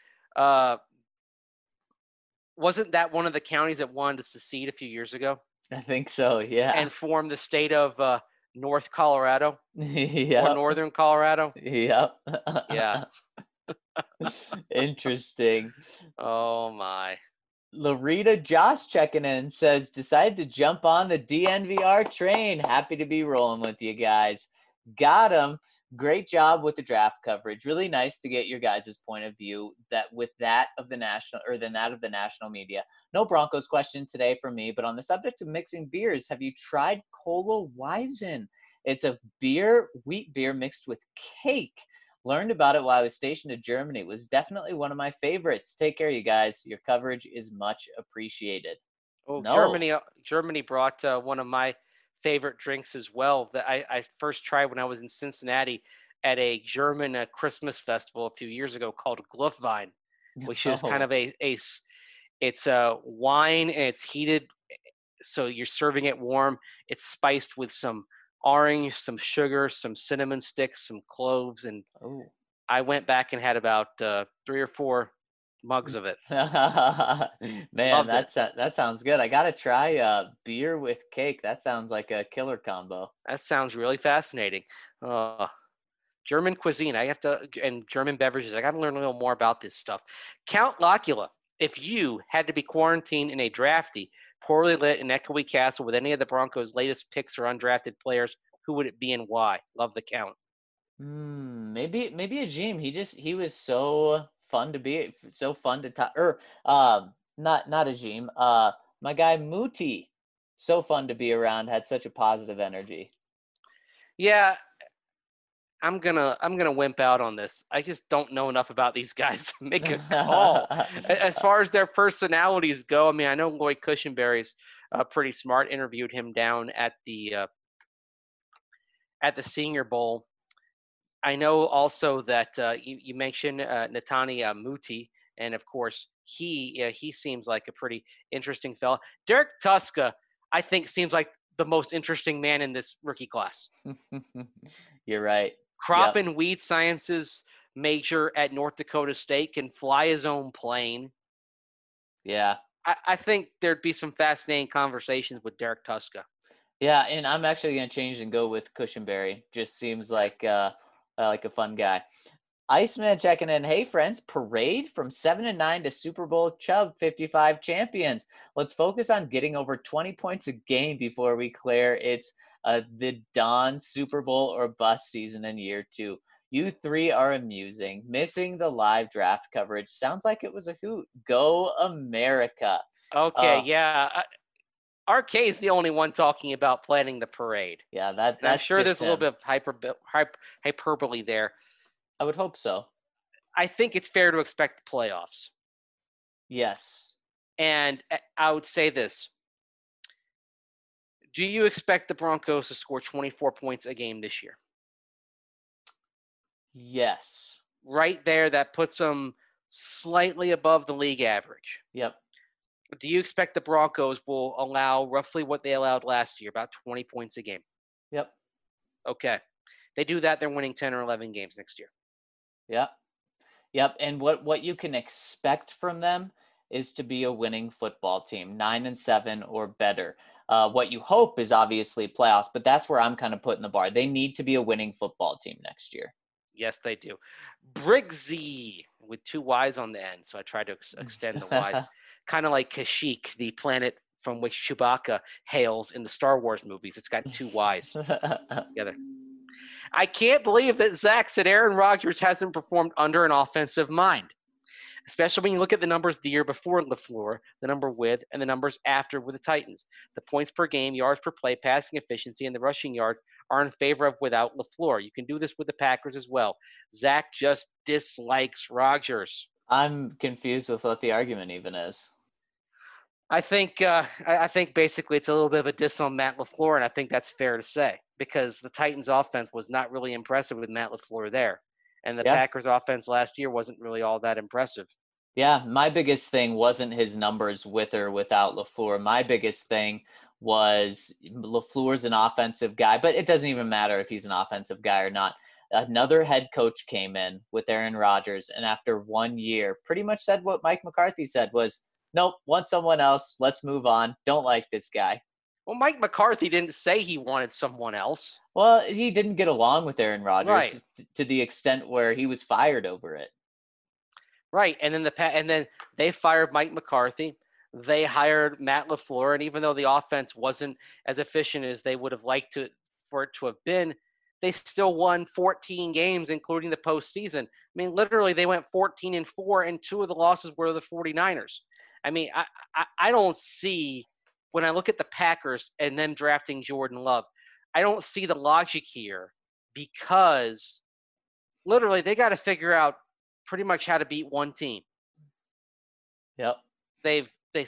wasn't that one of the counties that wanted to secede a few years ago? I think so, yeah. And form the state of North Colorado? Yep. Or Northern Colorado? Yep. Yeah. Interesting. Oh, my. Larita Josh checking in says, decided to jump on the DNVR train. Happy to be rolling with you guys. Got him. Great job with the draft coverage. Really nice to get your guys' point of view that with that of the national media. No Broncos question today for me, but on the subject of mixing beers, have you tried Cola Weizen? It's a wheat beer mixed with cake. Learned about it while I was stationed in Germany. It was definitely one of my favorites. Take care, you guys. Your coverage is much appreciated. Oh, no. Germany brought one of my favorite drinks as well that I first tried when I was in Cincinnati at a German Christmas festival a few years ago called Glühwein, which is kind of it's a wine and it's heated, so you're serving it warm. It's spiced with some orange, some sugar, some cinnamon sticks, some cloves, and I went back and had about 3 or 4 mugs of it. Man, that sounds good. I gotta try beer with cake. That sounds like a killer combo. That sounds really fascinating. German cuisine, and German beverages. I got to learn a little more about this stuff. Count Locula, if you had to be quarantined in a drafty, poorly lit and echoey castle with any of the Broncos' latest picks or undrafted players, who would it be and why? Love the count. Maybe Ajim. He was so fun to talk. Or not Ajim. My guy Muti, so fun to be around. Had such a positive energy. Yeah, I'm gonna wimp out on this. I just don't know enough about these guys to make a call. As far as their personalities go, I mean, I know Lloyd Cushenberry's pretty smart. Interviewed him down at the Senior Bowl. I know also that you mentioned Netanya Muti, and of course he seems like a pretty interesting fella. Derek Tuska, I think, seems like the most interesting man in this rookie class. You're right. Crop and weed sciences major at North Dakota State, can fly his own plane. Yeah. I think there'd be some fascinating conversations with Derek Tuska. Yeah, and I'm actually going to change and go with Cushenberry. Just seems like a fun guy. Iceman checking in. Hey, friends, parade from 7-9 to Super Bowl Chubb 55 champions. Let's focus on getting over 20 points a game before we declare it's the Don Super Bowl or bust season in year 2. You three are amusing. Missing the live draft coverage sounds like it was a hoot. Go America. Okay, yeah. RK is the only one talking about planning the parade. Yeah, that's I'm sure there's him. a little bit of hyperbole there. I would hope so. I think it's fair to expect playoffs. Yes. And I would say this. Do you expect the Broncos to score 24 points a game this year? Yes. Right there, that puts them slightly above the league average. Yep. Do you expect the Broncos will allow roughly what they allowed last year, about 20 points a game? Yep. Okay. They do that, they're winning 10 or 11 games next year. Yep. And what you can expect from them is to be a winning football team, 9-7 or better. What you hope is obviously playoffs, but that's where I'm kind of putting the bar. They need to be a winning football team next year. Yes, they do. Briggsy with 2 Y's on the end, so I tried to extend the Y's. Kind of like Kashyyyk, the planet from which Chewbacca hails in the Star Wars movies. It's got 2 Y's together. I can't believe that Zach said Aaron Rodgers hasn't performed under an offensive mind, especially when you look at the numbers the year before LaFleur, the number with, and the numbers after with the Titans. The points per game, yards per play, passing efficiency, and the rushing yards are in favor of without LaFleur. You can do this with the Packers as well. Zach just dislikes Rodgers. I'm confused with what the argument even is. I think basically it's a little bit of a diss on Matt LaFleur, and I think that's fair to say because the Titans' offense was not really impressive with Matt LaFleur there, and the Packers' offense last year wasn't really all that impressive. Yeah, my biggest thing wasn't his numbers with or without LaFleur. My biggest thing was LaFleur's an offensive guy, but it doesn't even matter if he's an offensive guy or not. Another head coach came in with Aaron Rodgers, and after 1 year, pretty much said what Mike McCarthy said was, nope, want someone else. Let's move on. Don't like this guy. Well, Mike McCarthy didn't say he wanted someone else. Well, he didn't get along with Aaron Rodgers to the extent where he was fired over it. Right, and then they fired Mike McCarthy. They hired Matt LaFleur, and even though the offense wasn't as efficient as they would have liked for it to have been, they still won 14 games, including the postseason. I mean, literally, they went 14-4, and 2 of the losses were the 49ers. I mean, I don't see, when I look at the Packers and them drafting Jordan Love, I don't see the logic here because literally they got to figure out pretty much how to beat one team. Yep. They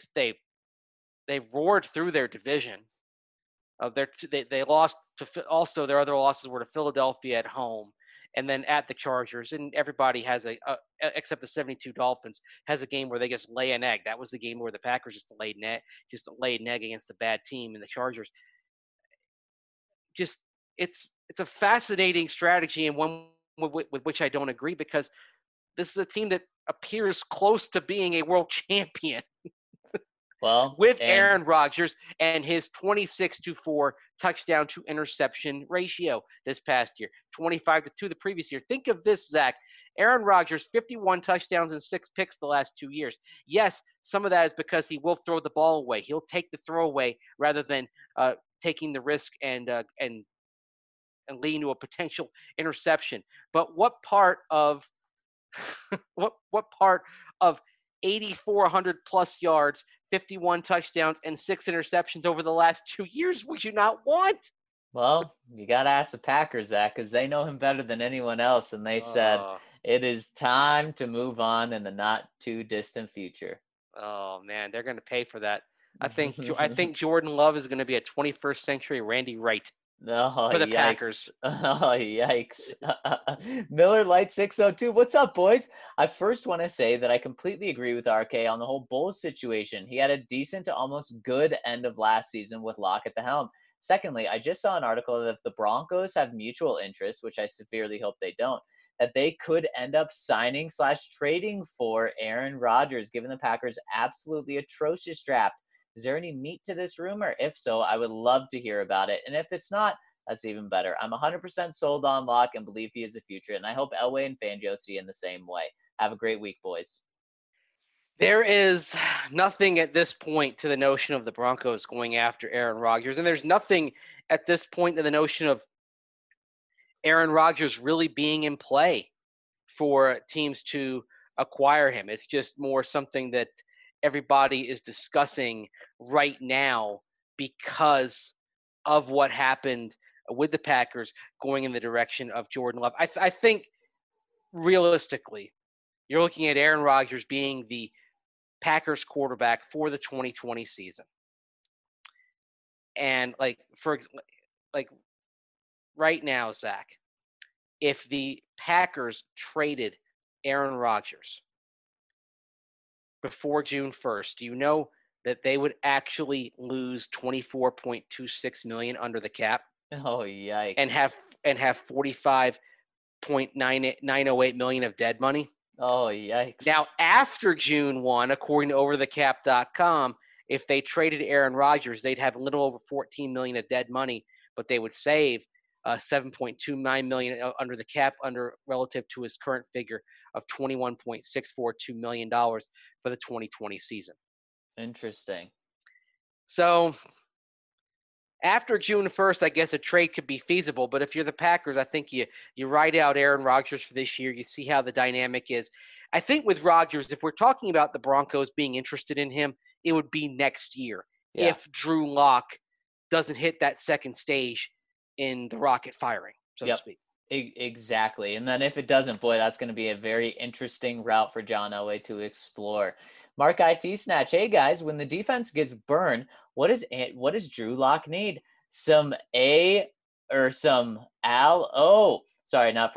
roared through their division. They lost to, also their other losses were to Philadelphia at home and then at the Chargers, and everybody has except the 72 Dolphins has a game where they just lay an egg. That was the game where the Packers just laid an egg against the bad team, and the Chargers. Just it's a fascinating strategy and one with which I don't agree because this is a team that appears close to being a world champion. Well, with Aaron Rodgers and his 26-4 touchdown to interception ratio this past year, 25-2 the previous year. Think of this, Zach. Aaron Rodgers, 51 touchdowns and 6 picks the last 2 years. Yes, some of that is because he will throw the ball away. He'll take the throw away rather than taking the risk and and leading to a potential interception. But what part of what part of 8,400 plus yards, 51 touchdowns, and 6 interceptions over the last 2 years would you not want? Well, you got to ask the Packers, Zach, because they know him better than anyone else. And they said it is time to move on in the not too distant future. Oh, man, they're going to pay for that. I think Jordan Love is going to be a 21st century Randy Wright for the yikes. Packers. Oh, yikes. Miller Light 602. What's up, boys? I first want to say that I completely agree with RK on the whole Bulls situation. He had a decent to almost good end of last season with Locke at the helm. Secondly, I just saw an article that if the Broncos have mutual interest, which I severely hope they don't, that they could end up signing/trading for Aaron Rodgers, given the Packers' absolutely atrocious draft. Is there any meat to this rumor? If so, I would love to hear about it. And if it's not, that's even better. I'm 100% sold on Locke and believe he is the future. And I hope Elway and Fangio see in the same way. Have a great week, boys. There is nothing at this point to the notion of the Broncos going after Aaron Rodgers. And there's nothing at this point to the notion of Aaron Rodgers really being in play for teams to acquire him. It's just more something that everybody is discussing right now because of what happened with the Packers going in the direction of Jordan Love. I think realistically, you're looking at Aaron Rodgers being the Packers quarterback for the 2020 season. And right now, Zach, if the Packers traded Aaron Rodgers before June 1st, do you know that they would actually lose $24.26 million under the cap? Oh, yikes. And have $45.908 million of dead money? Oh, yikes. Now, after June 1, according to overthecap.com, if they traded Aaron Rodgers, they'd have a little over $14 million of dead money, but they would save $7.29 million under the cap relative to his current figure of $21.642 million for the 2020 season. Interesting. So after June 1st, I guess a trade could be feasible. But if you're the Packers, I think you ride out Aaron Rodgers for this year. You see how the dynamic is. I think with Rodgers, if we're talking about the Broncos being interested in him, it would be next year if Drew Lock doesn't hit that second stage in the rocket firing, so to speak. Exactly. And then if it doesn't, boy, that's going to be a very interesting route for John Elway to explore. Mark IT Snatch. Hey, guys, when the defense gets burned, what does Drew Lock need? Some A or some Al? Oh, not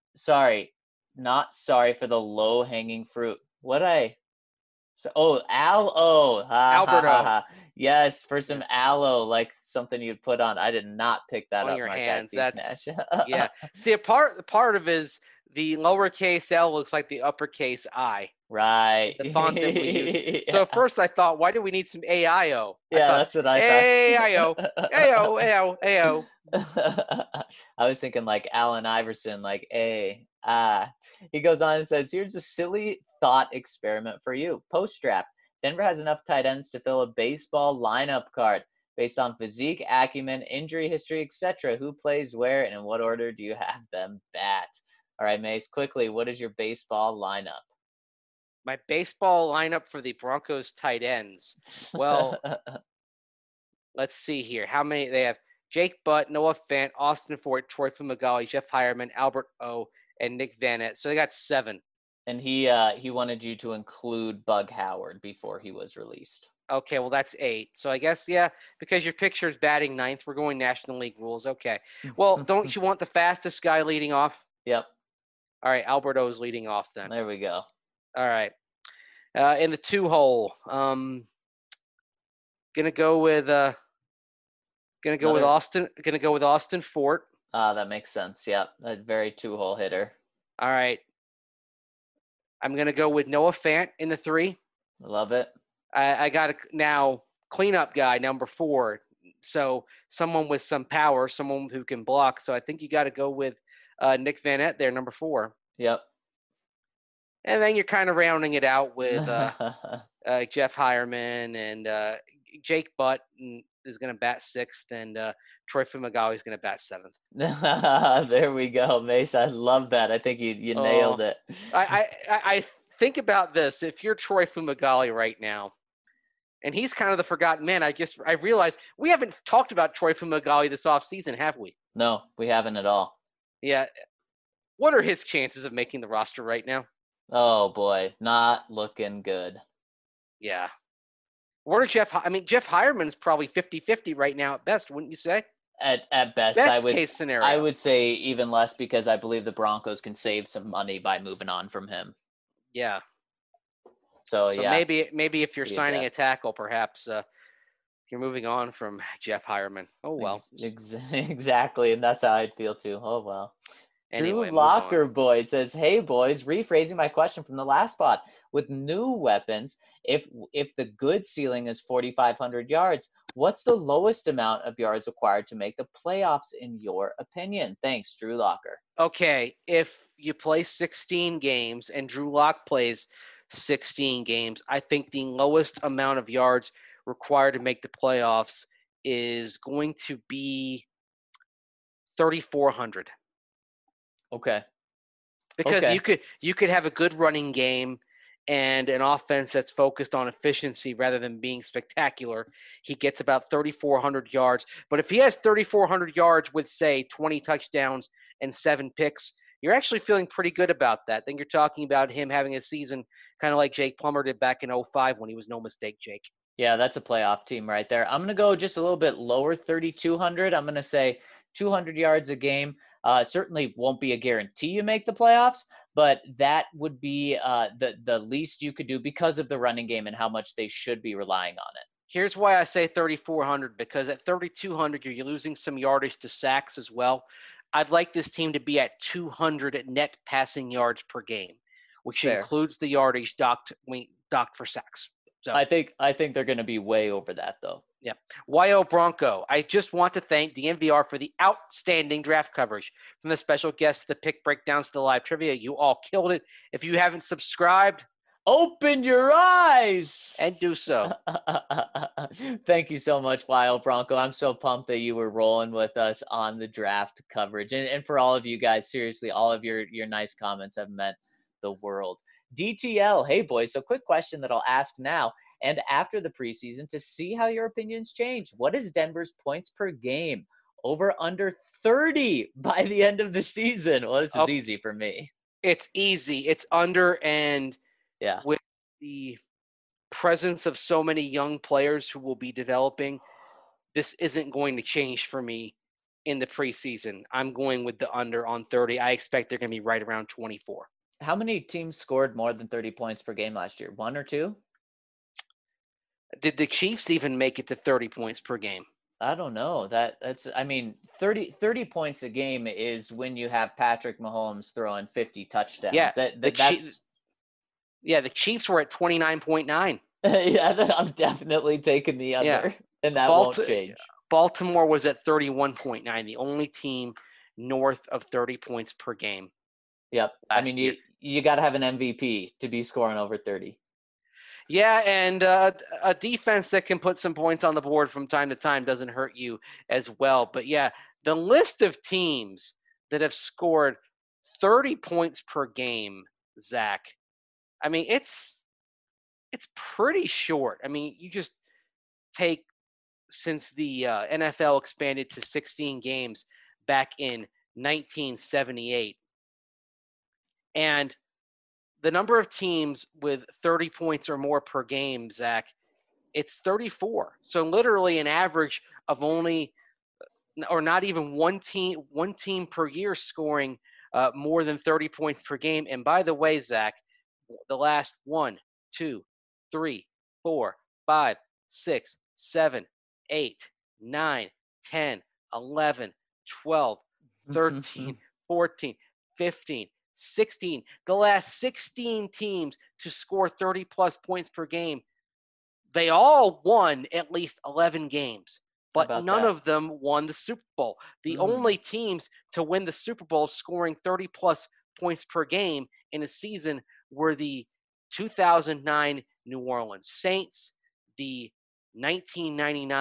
sorry for the low-hanging fruit. Alberto. Yes, for some aloe, like something you'd put on. I did not pick that on up. Your Mark hands. Snatch. Yeah. See, a part of is the lowercase L looks like the uppercase I. Right. The font that we use. So at first I thought, why do we need some AIO? That's what I thought. AIO. I was thinking like Allen Iverson, like A. He goes on and says, here's a silly thought experiment for you. Post-draft, Denver has enough tight ends to fill a baseball lineup card based on physique, acumen, injury history, etc. Who plays where and in what order do you have them bat? All right, Mace, quickly, what is your baseball lineup? My baseball lineup for the Broncos tight ends. Well, let's see here. How many they have? Jake Butt, Noah Fant, Austin Fort, Troy Fumagalli, Jeff Hireman, Albert O, and Nick Vanette. So they got 7. And he wanted you to include Bug Howard before he was released. Okay, well, that's 8. So I guess, because your picture is batting 9th, we're going National League rules. Okay. Well, don't you want the fastest guy leading off? Yep. All right, Alberto is leading off then. There we go. All right. In the 2-hole, gonna go with Austin. Gonna go with Austin Fort. That makes sense. Yeah, a very 2-hole hitter. All right. I'm gonna go with Noah Fant in the 3. Love it. I got a now cleanup guy number 4. So someone with some power, someone who can block. So I think you got to go with Nick Vanette there, number 4. Yep. And then you're kind of rounding it out with Jeff Hireman and Jake Butt and is going to bat sixth, and Troy Fumagalli is going to bat seventh. There we go, Mace. I love that. I think you nailed it. I think about this. If you're Troy Fumagalli right now, and he's kind of the forgotten man, I realized we haven't talked about Troy Fumagalli this offseason, have we? No, we haven't at all. Yeah. What are his chances of making the roster right now? Oh, boy. Not looking good. Yeah. What are Jeff Hireman's probably 50-50 right now at best, wouldn't you say? At best, case scenario. I would say even less, because I believe the Broncos can save some money by moving on from him. Yeah. So yeah. Maybe if you're signing a tackle, perhaps you're moving on from Jeff Hireman. Oh, well. Exactly, and that's how I'd feel too. Oh, well. Anyway, Drew Locker Boy says, "Hey boys, rephrasing my question from the last spot. With new weapons, if the good ceiling is 4,500 yards, what's the lowest amount of yards required to make the playoffs in your opinion? Thanks, Drew Locker." Okay, if you play 16 games and Drew Lock plays 16 games, I think the lowest amount of yards required to make the playoffs is going to be 3,400. Okay. Because you could have a good running game and an offense that's focused on efficiency rather than being spectacular. He gets about 3,400 yards. But if he has 3,400 yards with, say, 20 touchdowns and 7 picks, you're actually feeling pretty good about that. Then you're talking about him having a season kind of like Jake Plummer did back in 2005 when he was no mistake Jake. Yeah, that's a playoff team right there. I'm going to go just a little bit lower, 3,200. I'm going to say 200 yards a game. Certainly won't be a guarantee you make the playoffs, but that would be the least you could do because of the running game and how much they should be relying on it. Here's why I say 3,400, because at 3,200, you're losing some yardage to sacks as well. I'd like this team to be at 200 net passing yards per game, which includes the yardage docked for sacks. So I think they're going to be way over that, though. Yeah. YO Bronco, I just want to thank the MVR for the outstanding draft coverage. From the special guests, the pick breakdowns to the live trivia, you all killed it. If you haven't subscribed, open your eyes and do so. Thank you so much, YO Bronco. I'm so pumped that you were rolling with us on the draft coverage. And for all of you guys, seriously, all of your nice comments have meant the world. DTL, hey boys, so quick question that I'll ask now and after the preseason to see how your opinions change. What is Denver's points per game? Over under 30 by the end of the season? Well, this is easy for me. It's easy. It's under, and yeah, with the presence of so many young players who will be developing, this isn't going to change for me in the preseason. I'm going with the under on 30. I expect they're going to be right around 24. How many teams scored more than 30 points per game last year? 1 or 2? Did the Chiefs even make it to 30 points per game? I don't know. That's 30 points a game is when you have Patrick Mahomes throwing 50 touchdowns. Yeah, the Chiefs were at 29.9. Yeah, I'm definitely taking the under, and that won't change. Baltimore was at 31.9, the only team north of 30 points per game. Yep. You got to have an MVP to be scoring over 30. Yeah, and a defense that can put some points on the board from time to time doesn't hurt you as well. But yeah, the list of teams that have scored 30 points per game, Zach, I mean, it's pretty short. I mean, you just take since the NFL expanded to 16 games back in 1978. And the number of teams with 30 points or more per game, Zach, it's 34. So literally an average of only, or not even one team per year scoring more than 30 points per game. And by the way, Zach, the last 1, 2, 3, 4, 5, 6, 7, 8, 9, 10, 11, 12, 13, 14, 15, 16. The last 16 teams to score 30-plus points per game, they all won at least 11 games. But none of them won the Super Bowl. The only teams to win the Super Bowl scoring 30-plus points per game in a season were the 2009 New Orleans Saints, the 1999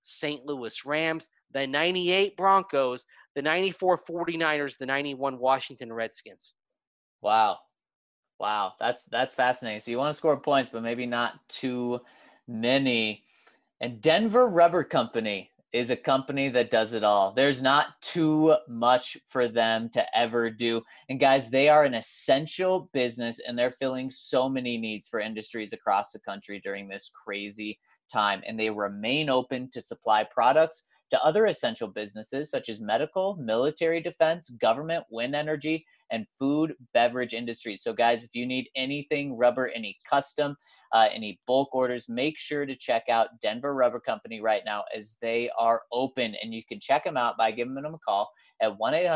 St. Louis Rams, the 98 Broncos, the 94 49ers, the 91 Washington Redskins. Wow. Wow. That's fascinating. So you want to score points, but maybe not too many. And Denver Rubber Company is a company that does it all. There's not too much for them to ever do. And guys, they are an essential business, and they're filling so many needs for industries across the country during this crazy time. And they remain open to supply products to other essential businesses such as medical, military defense, government, wind energy, and food, beverage industries. So guys, if you need anything rubber, any custom, any bulk orders, make sure to check out Denver Rubber Company right now, as they are open. And you can check them out by giving them a call at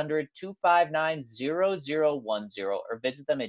1-800-259-0010 or visit them at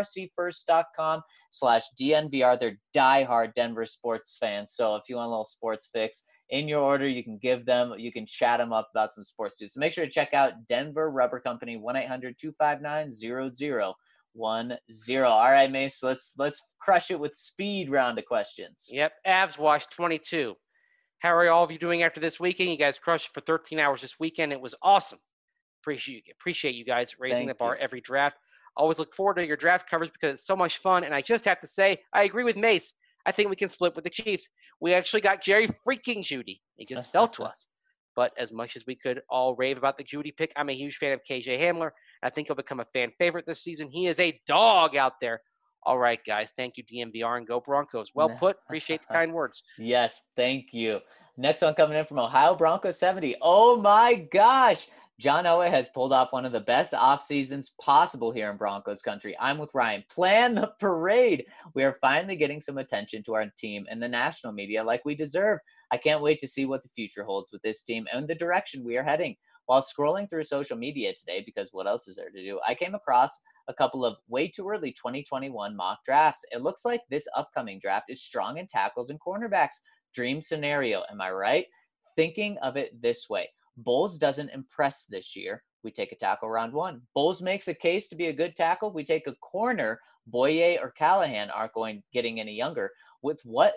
drcfirst.com/DNVR. They're diehard Denver sports fans. So if you want a little sports fix in your order, you can chat them up about some sports too. So make sure to check out Denver Rubber Company, 1-800-259-0010. All right, Mace, let's crush it with speed round of questions. Yep, Avs Wash 22. How are all of you doing after this weekend? You guys crushed it for 13 hours this weekend. It was awesome. Appreciate you guys raising the bar every draft. Always look forward to your draft coverage because it's so much fun. And I just have to say, I agree with Mace. I think we can split with the Chiefs. We actually got Jerry freaking Jeudy. He just fell to us. But as much as we could all rave about the Jeudy pick, I'm a huge fan of KJ Hamler. I think he'll become a fan favorite this season. He is a dog out there. All right, guys. Thank you, DMVR, and go Broncos. Well put. Appreciate the kind words. Yes, thank you. Next one coming in from Ohio Broncos 70. Oh, my gosh. John Elway has pulled off one of the best off seasons possible here in Broncos country. I'm with Ryan. Plan the parade. We are finally getting some attention to our team in the national media like we deserve. I can't wait to see what the future holds with this team and the direction we are heading. While scrolling through social media today, because what else is there to do, I came across a couple of way too early 2021 mock drafts. It looks like this upcoming draft is strong in tackles and cornerbacks. Dream scenario, am I right? Thinking of it this way. Bowles doesn't impress this year. We take a tackle round 1. Bowles makes a case to be a good tackle. We take a corner. Boye or Callahan aren't getting any younger. With what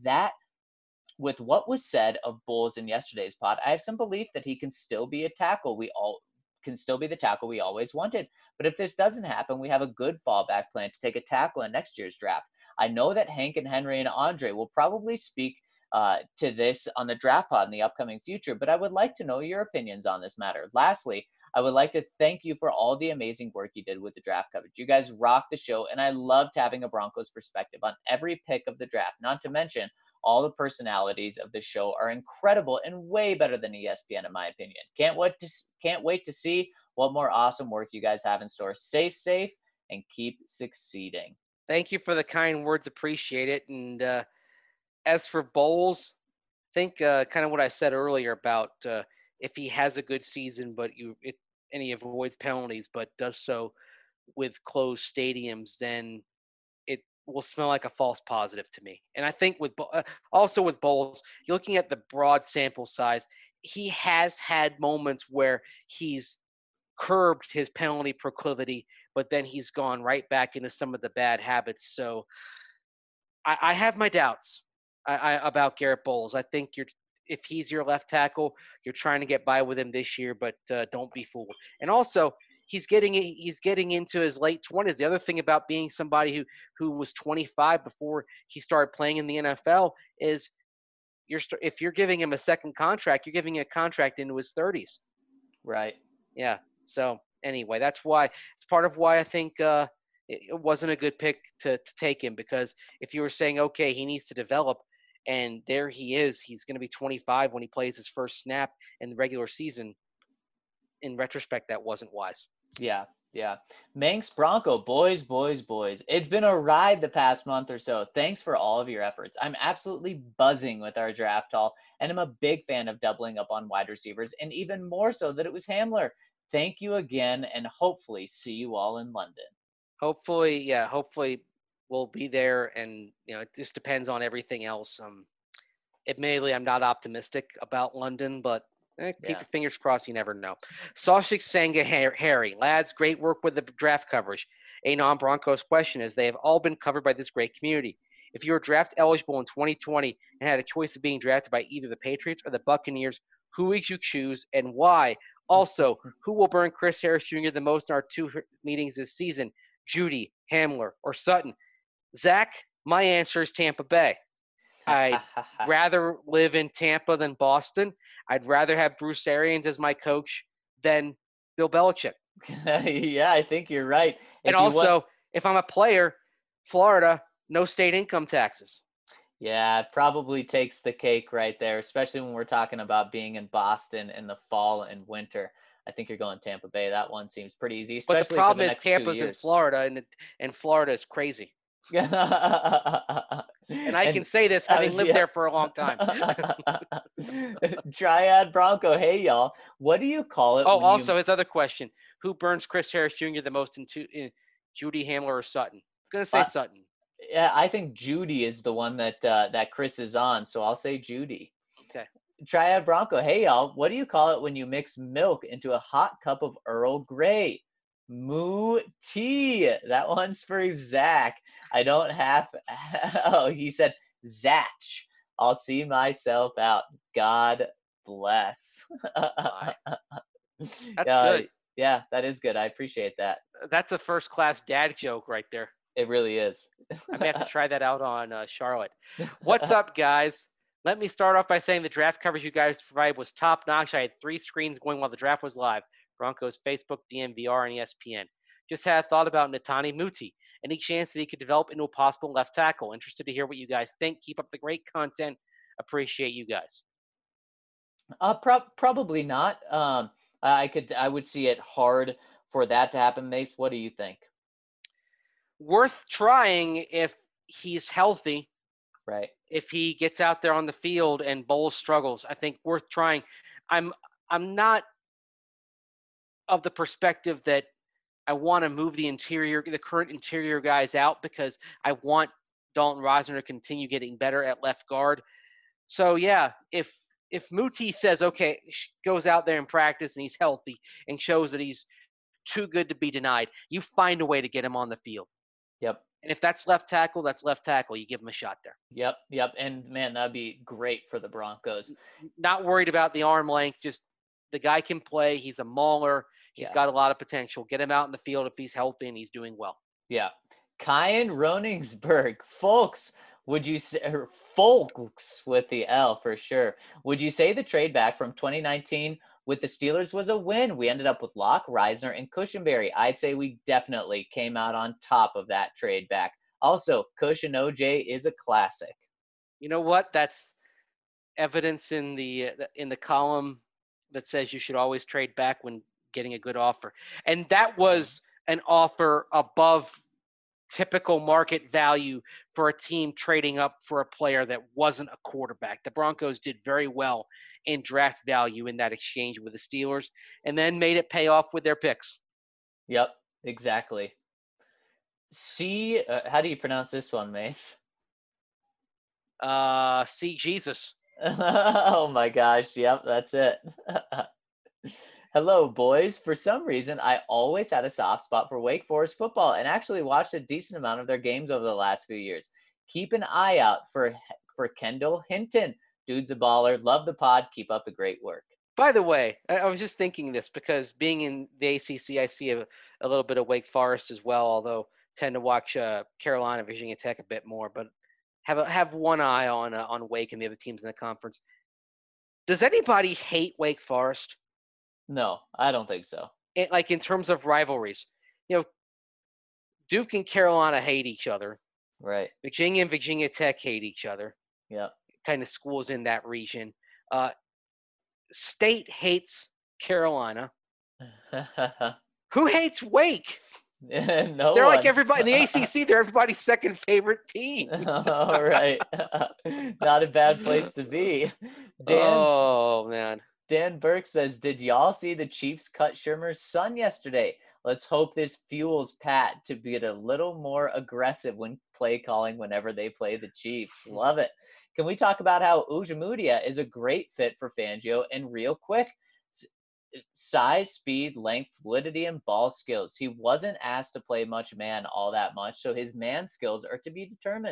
was said of Bowles in yesterday's pod, I have some belief that he can still be a tackle. Can still be the tackle we always wanted. But if this doesn't happen, we have a good fallback plan to take a tackle in next year's draft. I know that Hank and Henry and Andre will probably speak to this on the draft pod in the upcoming future, but I would like to know your opinions on this matter. Lastly, I would like to thank you for all the amazing work you did with the draft coverage. You guys rocked the show, and I loved having a Broncos perspective on every pick of the draft. Not to mention, all the personalities of the show are incredible and way better than ESPN, in my opinion. Can't wait to see what more awesome work you guys have in store. Stay safe and keep succeeding. Thank you for the kind words. Appreciate it. And as for Bowles, think kind of what I said earlier about if he has a good season, and he avoids penalties, but does so with closed stadiums, then it will smell like a false positive to me. And I think also with Bowles, you're looking at the broad sample size. He has had moments where he's curbed his penalty proclivity, but then he's gone right back into some of the bad habits. So I have my doubts about Garrett Bowles. I think if he's your left tackle, you're trying to get by with him this year, but don't be fooled. And also, he's getting into his late 20s. The other thing about being somebody who was 25 before he started playing in the NFL is if you're giving him a second contract, you're giving him a contract into his 30s. Right. Yeah. So anyway, it's part of why I think it wasn't a good pick to take him, because if you were saying, okay, he needs to develop, and there he is, he's going to be 25 when he plays his first snap in the regular season. In retrospect, that wasn't wise. Yeah. Manx Bronco, boys. It's been a ride the past month or so. Thanks for all of your efforts. I'm absolutely buzzing with our draft haul, and I'm a big fan of doubling up on wide receivers, and even more so that it was Hamler. Thank you again, and hopefully see you all in London. Hopefully we'll be there, and it just depends on everything else. Admittedly, I'm not optimistic about London, but keep your fingers crossed. You never know. Sashik Sanga Harry, lads, great work with the draft coverage. A non-Broncos question is, they have all been covered by this great community. If you were draft eligible in 2020 and had a choice of being drafted by either the Patriots or the Buccaneers, who would you choose and why? Also, who will burn Chris Harris Jr. the most in our 2 meetings this season? Judy, Hamler, or Sutton? Zach, my answer is Tampa Bay. I'd rather live in Tampa than Boston. I'd rather have Bruce Arians as my coach than Bill Belichick. Yeah, I think you're right. And also, if I'm a player, Florida, no state income taxes. Yeah, it probably takes the cake right there, especially when we're talking about being in Boston in the fall and winter. I think you're going Tampa Bay. That one seems pretty easy, especially But the problem for the is next Tampa's 2 in years. Florida, and Florida is crazy. And I can say this having lived there for a long time. Triad Bronco, hey y'all, what do you call it? Oh, also his other question: who burns Chris Harris Jr. the most in Judy, Hamler, or Sutton? I'm gonna say Sutton. Yeah, I think Judy is the one that Chris is on, so I'll say Judy. Okay. Triad Bronco, hey y'all, what do you call it when you mix milk into a hot cup of Earl Grey? Moo tea. That one's for Zach. I don't have. Oh, he said Zach. I'll see myself out. God bless. That's good. Yeah, that is good. I appreciate that. That's a first-class dad joke right there. It really is. I may have to try that out on Charlotte. What's up, guys? Let me start off by saying the draft coverage you guys provided was top-notch. I had 3 screens going while the draft was live. Broncos, Facebook, DNVR, and ESPN. Just had a thought about Netani Muti. Any chance that he could develop into a possible left tackle? Interested to hear what you guys think. Keep up the great content. Appreciate you guys. Probably not. I would see it hard for that to happen. Mace, what do you think? Worth trying if he's healthy. Right. If he gets out there on the field and Bowles struggles, I think worth trying. I'm not of the perspective that I want to move the current interior guys out because I want Dalton Risner to continue getting better at left guard. So yeah, if Muti says, okay, goes out there in practice and he's healthy and shows that he's too good to be denied, you find a way to get him on the field. Yep. And if that's left tackle, that's left tackle. You give him a shot there. Yep. And man, that'd be great for the Broncos. Not worried about the arm length. Just the guy can play. He's a mauler. He's got a lot of potential. Get him out in the field if he's healthy and he's doing well. Yeah. Kyan Roningsberg. Folks, would you say, folks with the L for sure. Would you say the trade back from 2019 with the Steelers was a win? We ended up with Locke, Risner, and Cushenberry. I'd say we definitely came out on top of that trade back. Also, Cush and OJ is a classic. You know what? That's evidence in the column that says you should always trade back when getting a good offer. And that was an offer above typical market value for a team trading up for a player that wasn't a quarterback. The Broncos did very well in draft value in that exchange with the Steelers and then made it pay off with their picks. Yep, exactly. How do you pronounce this one, Mace? See Jesus. Oh my gosh. Yep, that's it. Hello, boys. For some reason, I always had a soft spot for Wake Forest football and actually watched a decent amount of their games over the last few years. Keep an eye out for Kendall Hinton. Dude's a baller. Love the pod. Keep up the great work. By the way, I was just thinking this because being in the ACC, I see a little bit of Wake Forest as well, although tend to watch Carolina, Virginia Tech a bit more, but have one eye on Wake and the other teams in the conference. Does anybody hate Wake Forest? No, I don't think so. Like in terms of rivalries, Duke and Carolina hate each other. Right. Virginia and Virginia Tech hate each other. Yep. Kind of schools in that region. State hates Carolina. Who hates Wake? No, they're like everybody in the ACC. They're everybody's second favorite team. All right. Not a bad place to be. Oh man. Dan Burke says, did y'all see the Chiefs cut Shermer's son yesterday? Let's hope this fuels Pat to get a little more aggressive when play calling whenever they play the Chiefs. Love it. Can we talk about how Ujamudia is a great fit for Fangio and real quick? Size, speed, length, fluidity, and ball skills. He wasn't asked to play much man all that much, so his man skills are to be determined.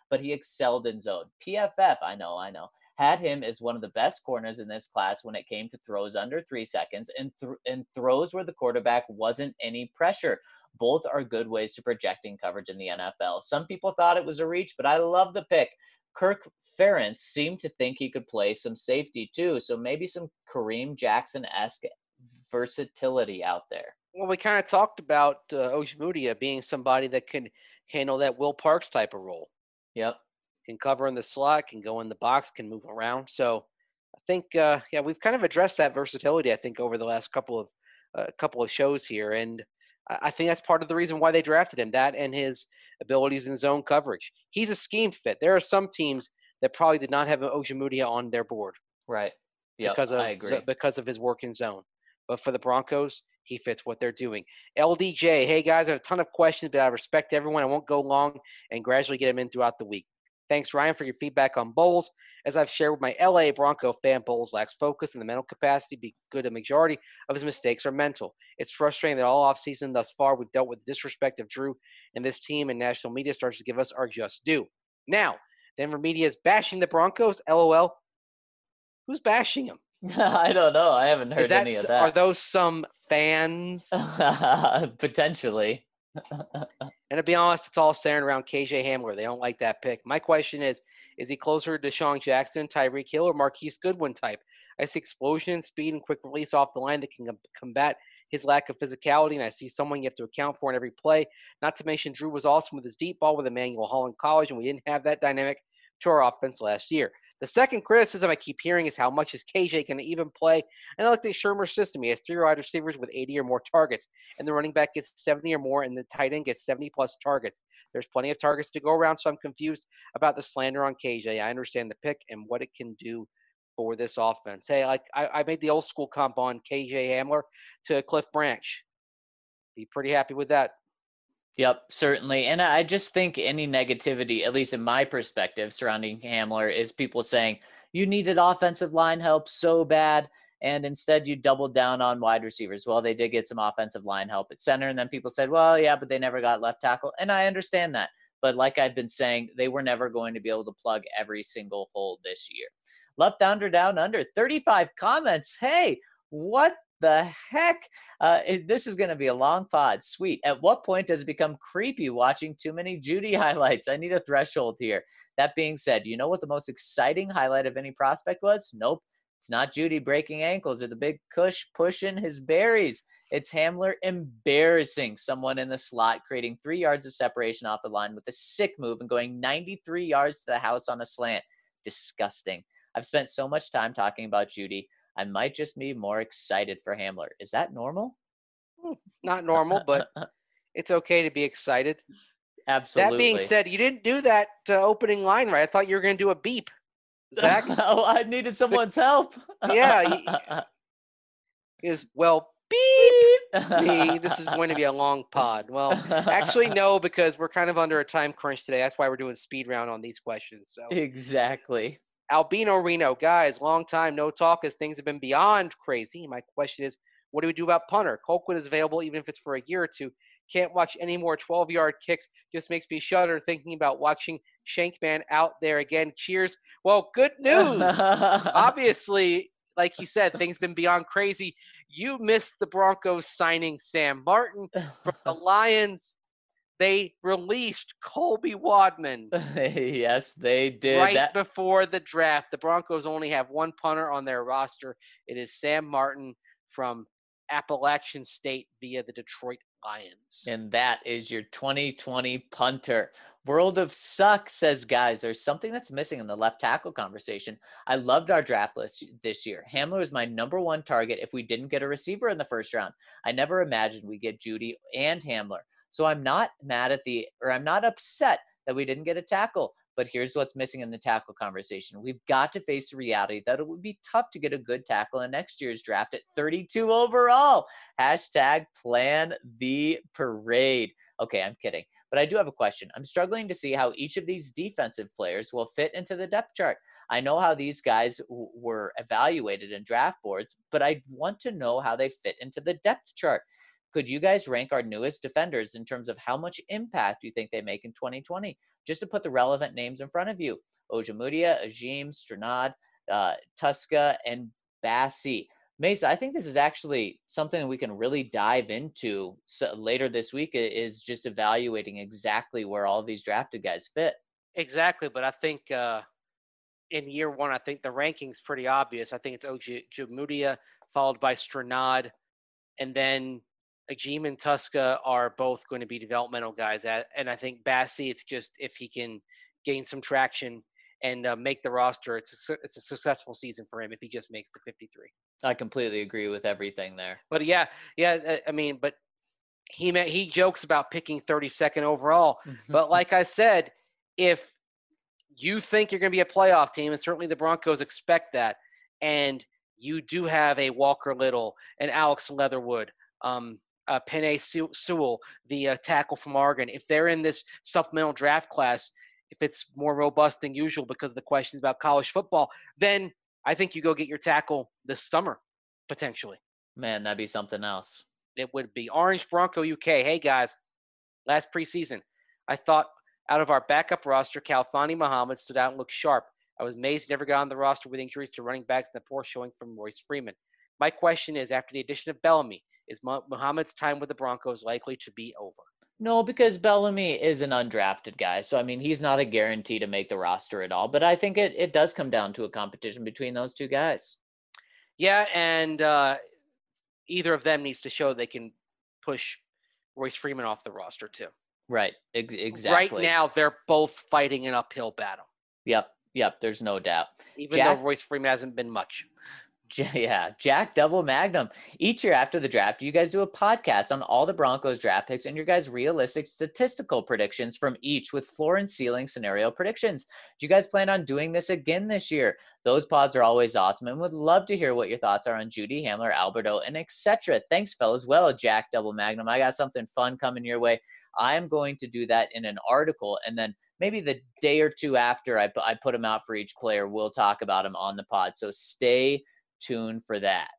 but he excelled in zone. PFF, I know, had him as one of the best corners in this class when it came to throws under 3 seconds and throws where the quarterback wasn't any pressure. Both are good ways to projecting coverage in the NFL. Some people thought it was a reach, but I love the pick. Kirk Ferentz seemed to think he could play some safety too, so maybe some Kareem Jackson-esque versatility out there. Well, we kind of talked about Ojemudia being somebody that can handle that Will Parks type of role. Yep. Can cover in the slot, can go in the box, can move around. So I think, we've kind of addressed that versatility, I think, over the last couple of shows here. And I think that's part of the reason why they drafted him, that and his abilities in zone coverage. He's a scheme fit. There are some teams that probably did not have Ojemudia on their board. Right. Yeah, I agree. Because of his work in zone. But for the Broncos, he fits what they're doing. LDJ, hey guys, I have a ton of questions, but I respect everyone. I won't go long and gradually get them in throughout the week. Thanks, Ryan, for your feedback on Bowles. As I've shared with my LA Bronco fan, Bowles lacks focus and the mental capacity to be good. A majority of his mistakes are mental. It's frustrating that all offseason thus far we've dealt with the disrespect of Drew and this team, and national media starts to give us our just due. Now, Denver media is bashing the Broncos. LOL. Who's bashing them? I don't know. I haven't heard any of that. Are those some fans? Potentially. And to be honest, it's all centered around KJ Hamler. They don't like that pick. My question is he closer to Deshaun Jackson, Tyreek Hill, or Marquise Goodwin type? I see explosion, speed, and quick release off the line that can combat his lack of physicality, and I see someone you have to account for in every play. Not to mention Drew was awesome with his deep ball with Emmanuel Hall in college, and we didn't have that dynamic to our offense last year. The second criticism I keep hearing is how much is KJ going to even play. And I like the Shermer system. He has 3 wide receivers with 80 or more targets, and the running back gets 70 or more, and the tight end gets 70-plus targets. There's plenty of targets to go around, so I'm confused about the slander on KJ. I understand the pick and what it can do for this offense. Hey, I made the old school comp on KJ Hamler to Cliff Branch. Be pretty happy with that. Yep, certainly. And I just think any negativity, at least in my perspective, surrounding Hamler is people saying, you needed offensive line help so bad, and instead you doubled down on wide receivers. Well, they did get some offensive line help at center, and then people said, well, yeah, but they never got left tackle. And I understand that. But like I've been saying, they were never going to be able to plug every single hole this year. Left under, down under, 35 comments. Hey, what the heck? This is going to be a long pod. Sweet. At what point does it become creepy watching too many Jeudy highlights? I need a threshold here. That being said, you know what the most exciting highlight of any prospect was? Nope. It's not Jeudy breaking ankles or the big Kush pushing his berries. It's Hamler embarrassing someone in the slot, creating 3 yards of separation off the line with a sick move and going 93 yards to the house on a slant. Disgusting. I've spent so much time talking about Jeudy. I might just be more excited for Hamler. Is that normal? Not normal, but it's okay to be excited. Absolutely. That being said, you didn't do that opening line right. I thought you were going to do a beep. Zach? Oh, I needed someone's help. Yeah. Beep me. This is going to be a long pod. Well, actually, no, because we're kind of under a time crunch today. That's why we're doing speed round on these questions. So exactly. Albino Reno, guys, long time no talk as things have been beyond crazy. My question is, what do we do about punter? Colquitt is available even if it's for a year or two. Can't watch any more 12-yard kicks. Just makes me shudder thinking about watching Shankman out there again. Cheers. Well, good news. Obviously, like you said, things been beyond crazy. You missed the Broncos signing Sam Martin from the Lions. They released Colby Wadman. Yes, they did. Right before the draft. The Broncos only have one punter on their roster. It is Sam Martin from Appalachian State via the Detroit Lions. And that is your 2020 punter. World of Suck says, guys, there's something that's missing in the left tackle conversation. I loved our draft list this year. Hamler was my number one target if we didn't get a receiver in the first round. I never imagined we'd get Jeudy and Hamler. So I'm not I'm not upset that we didn't get a tackle. But here's what's missing in the tackle conversation. We've got to face the reality that it would be tough to get a good tackle in next year's draft at 32 overall. Hashtag plan the parade. Okay, I'm kidding. But I do have a question. I'm struggling to see how each of these defensive players will fit into the depth chart. I know how these guys were evaluated in draft boards, but I want to know how they fit into the depth chart. Could you guys rank our newest defenders in terms of how much impact you think they make in 2020? Just to put the relevant names in front of you: Ojemudia, Ajim, Stranad, Tuska, and Bassi. Mesa, I think this is actually something that we can really dive into later this week, is just evaluating exactly where all these drafted guys fit. Exactly, but I think in year one, I think the ranking's pretty obvious. I think it's Ojemudia, followed by Stranad, and then Ajim and Tuska are both going to be developmental guys. And I think Bassi, it's just if he can gain some traction and make the roster, it's a successful season for him if he just makes the 53. I completely agree with everything there. But yeah, I mean, but he jokes about picking 32nd overall. But like I said, if you think you're going to be a playoff team, and certainly the Broncos expect that, and you do have a Walker Little, and Alex Leatherwood, Penei Sewell, the tackle from Oregon, if they're in this supplemental draft class, if it's more robust than usual because of the questions about college football, then I think you go get your tackle this summer, potentially. Man, that'd be something else. It would be. Orange Bronco UK. Hey, guys, last preseason, I thought out of our backup roster, Khalfani Muhammad stood out and looked sharp. I was amazed he never got on the roster with injuries to running backs and the poor showing from Royce Freeman. My question is, after the addition of Bellamy, is Muhammad's time with the Broncos likely to be over? No, because Bellamy is an undrafted guy. So, I mean, he's not a guarantee to make the roster at all. But I think it does come down to a competition between those two guys. Yeah, and either of them needs to show they can push Royce Freeman off the roster too. Right, exactly. Right now, they're both fighting an uphill battle. Yep, there's no doubt. Even though Royce Freeman hasn't been much. Yeah, Jack Double Magnum. Each year after the draft, you guys do a podcast on all the Broncos draft picks and your guys' realistic statistical predictions from each with floor and ceiling scenario predictions. Do you guys plan on doing this again this year? Those pods are always awesome and would love to hear what your thoughts are on Jeudy, Hamler, Alberto, and etc. Thanks, fellas. Well, Jack Double Magnum, I got something fun coming your way. I'm going to do that in an article, and then maybe the day or two after I put them out for each player, we'll talk about them on the pod. So stay tuned for that.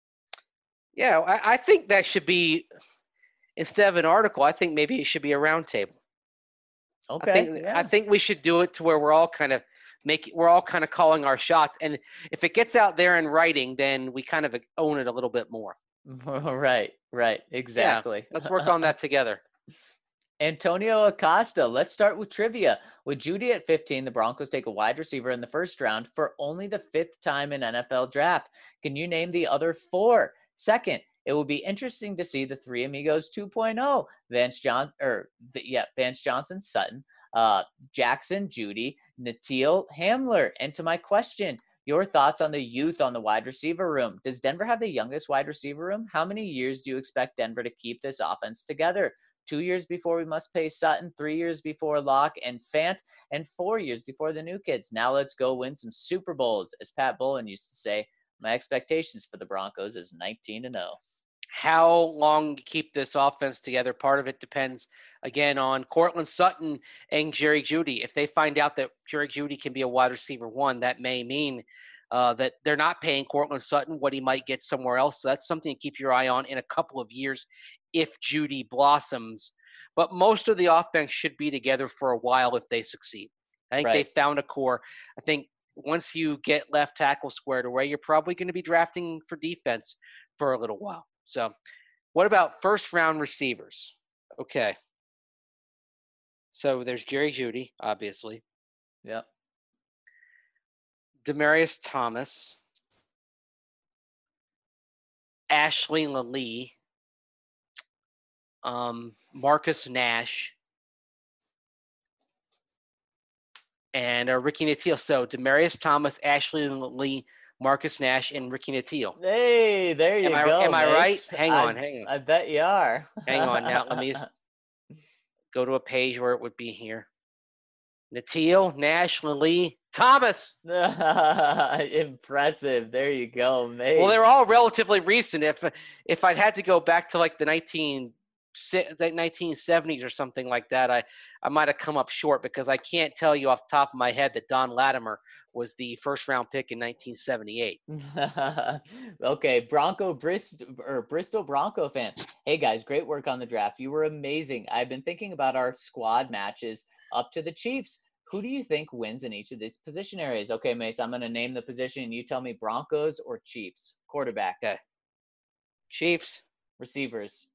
Yeah, I think that should be, instead of an article, I think maybe it should be a roundtable. Okay. I think we should do it to where we're all kind of calling our shots, and if it gets out there in writing, then we kind of own it a little bit more. Right, exactly. Yeah, let's work on that together. Antonio Acosta. Let's start with trivia. With Jeudy at 15, the Broncos take a wide receiver in the first round for only the 5th time in NFL draft. Can you name the other 4? Second, it will be interesting to see the Three Amigos 2.0. Vance Johnson, Sutton, Jackson, Jeudy, Natil, Hamler. And to my question, your thoughts on the youth on the wide receiver room. Does Denver have the youngest wide receiver room? How many years do you expect Denver to keep this offense together? 2 years before we must pay Sutton, 3 years before Locke and Fant, and 4 years before the new kids. Now let's go win some Super Bowls. As Pat Bowlen used to say, my expectations for the Broncos is 19-0. How long to keep this offense together? Part of it depends, again, on Courtland Sutton and Jerry Jeudy. If they find out that Jerry Jeudy can be a wide receiver 1, that may mean that they're not paying Courtland Sutton what he might get somewhere else. So that's something to keep your eye on in a couple of years if Jeudy blossoms. But most of the offense should be together for a while if they succeed. I think they found a core. I think once you get left tackle squared away, you're probably going to be drafting for defense for a little while. So what about first-round receivers? Okay. So there's Jerry Jeudy, obviously. Yep. Demaryius Thomas, Ashley Lallee, Marcus Nash, and Ricky Natil. So Demaryius Thomas, Ashley Lallee, Marcus Nash, and Ricky Natil. Hey, there you go. Am I right? Hang on. I bet you are. Hang on. Now let me go to a page where it would be here. Natil, Nash, Lallee, Thomas. Impressive. There you go, mate. Well, they're all relatively recent. If I'd had to go back to like the 1960s the 1970s or something like that, I might have come up short because I can't tell you off the top of my head that Don Latimer was the first round pick in 1978. Okay, Bristol Bronco fan. Hey guys, great work on the draft. You were amazing. I've been thinking about our squad matches up to the Chiefs. Who do you think wins in each of these position areas? Okay, Mace, I'm going to name the position and you tell me Broncos or Chiefs. Quarterback. Okay. Chiefs. Receivers.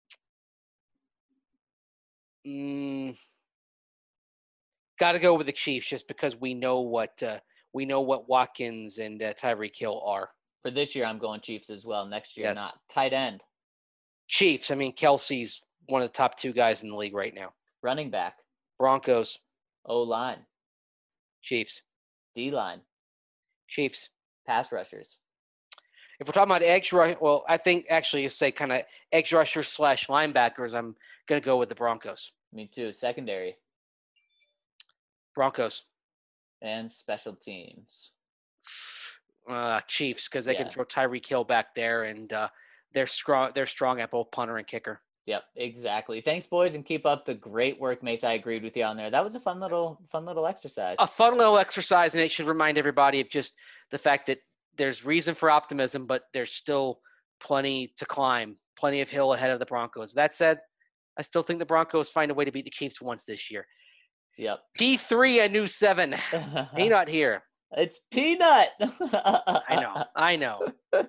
Got to go with the Chiefs just because we know what Watkins and Tyreek Hill are. For this year, I'm going Chiefs as well. Next year, not. Tight end. Chiefs. I mean, Kelsey's one of the top 2 guys in the league right now. Running back. Broncos. O-line. Chiefs. D-line. Chiefs. Pass rushers. If we're talking about edge rush, well, I think actually you say kind of edge rushers / linebackers, I'm going to go with the Broncos. Me too. Secondary. Broncos. And special teams. Chiefs, because they can throw Tyreek Hill back there, and they're strong at both punter and kicker. Yep, exactly. Thanks, boys, and keep up the great work, Mace. I agreed with you on there. That was a fun little exercise. A fun little exercise, and it should remind everybody of just the fact that there's reason for optimism, but there's still plenty to climb, plenty of hill ahead of the Broncos. That said, I still think the Broncos find a way to beat the Chiefs once this year. Yep. P3, a new 7. Peanut here. It's Peanut. I know.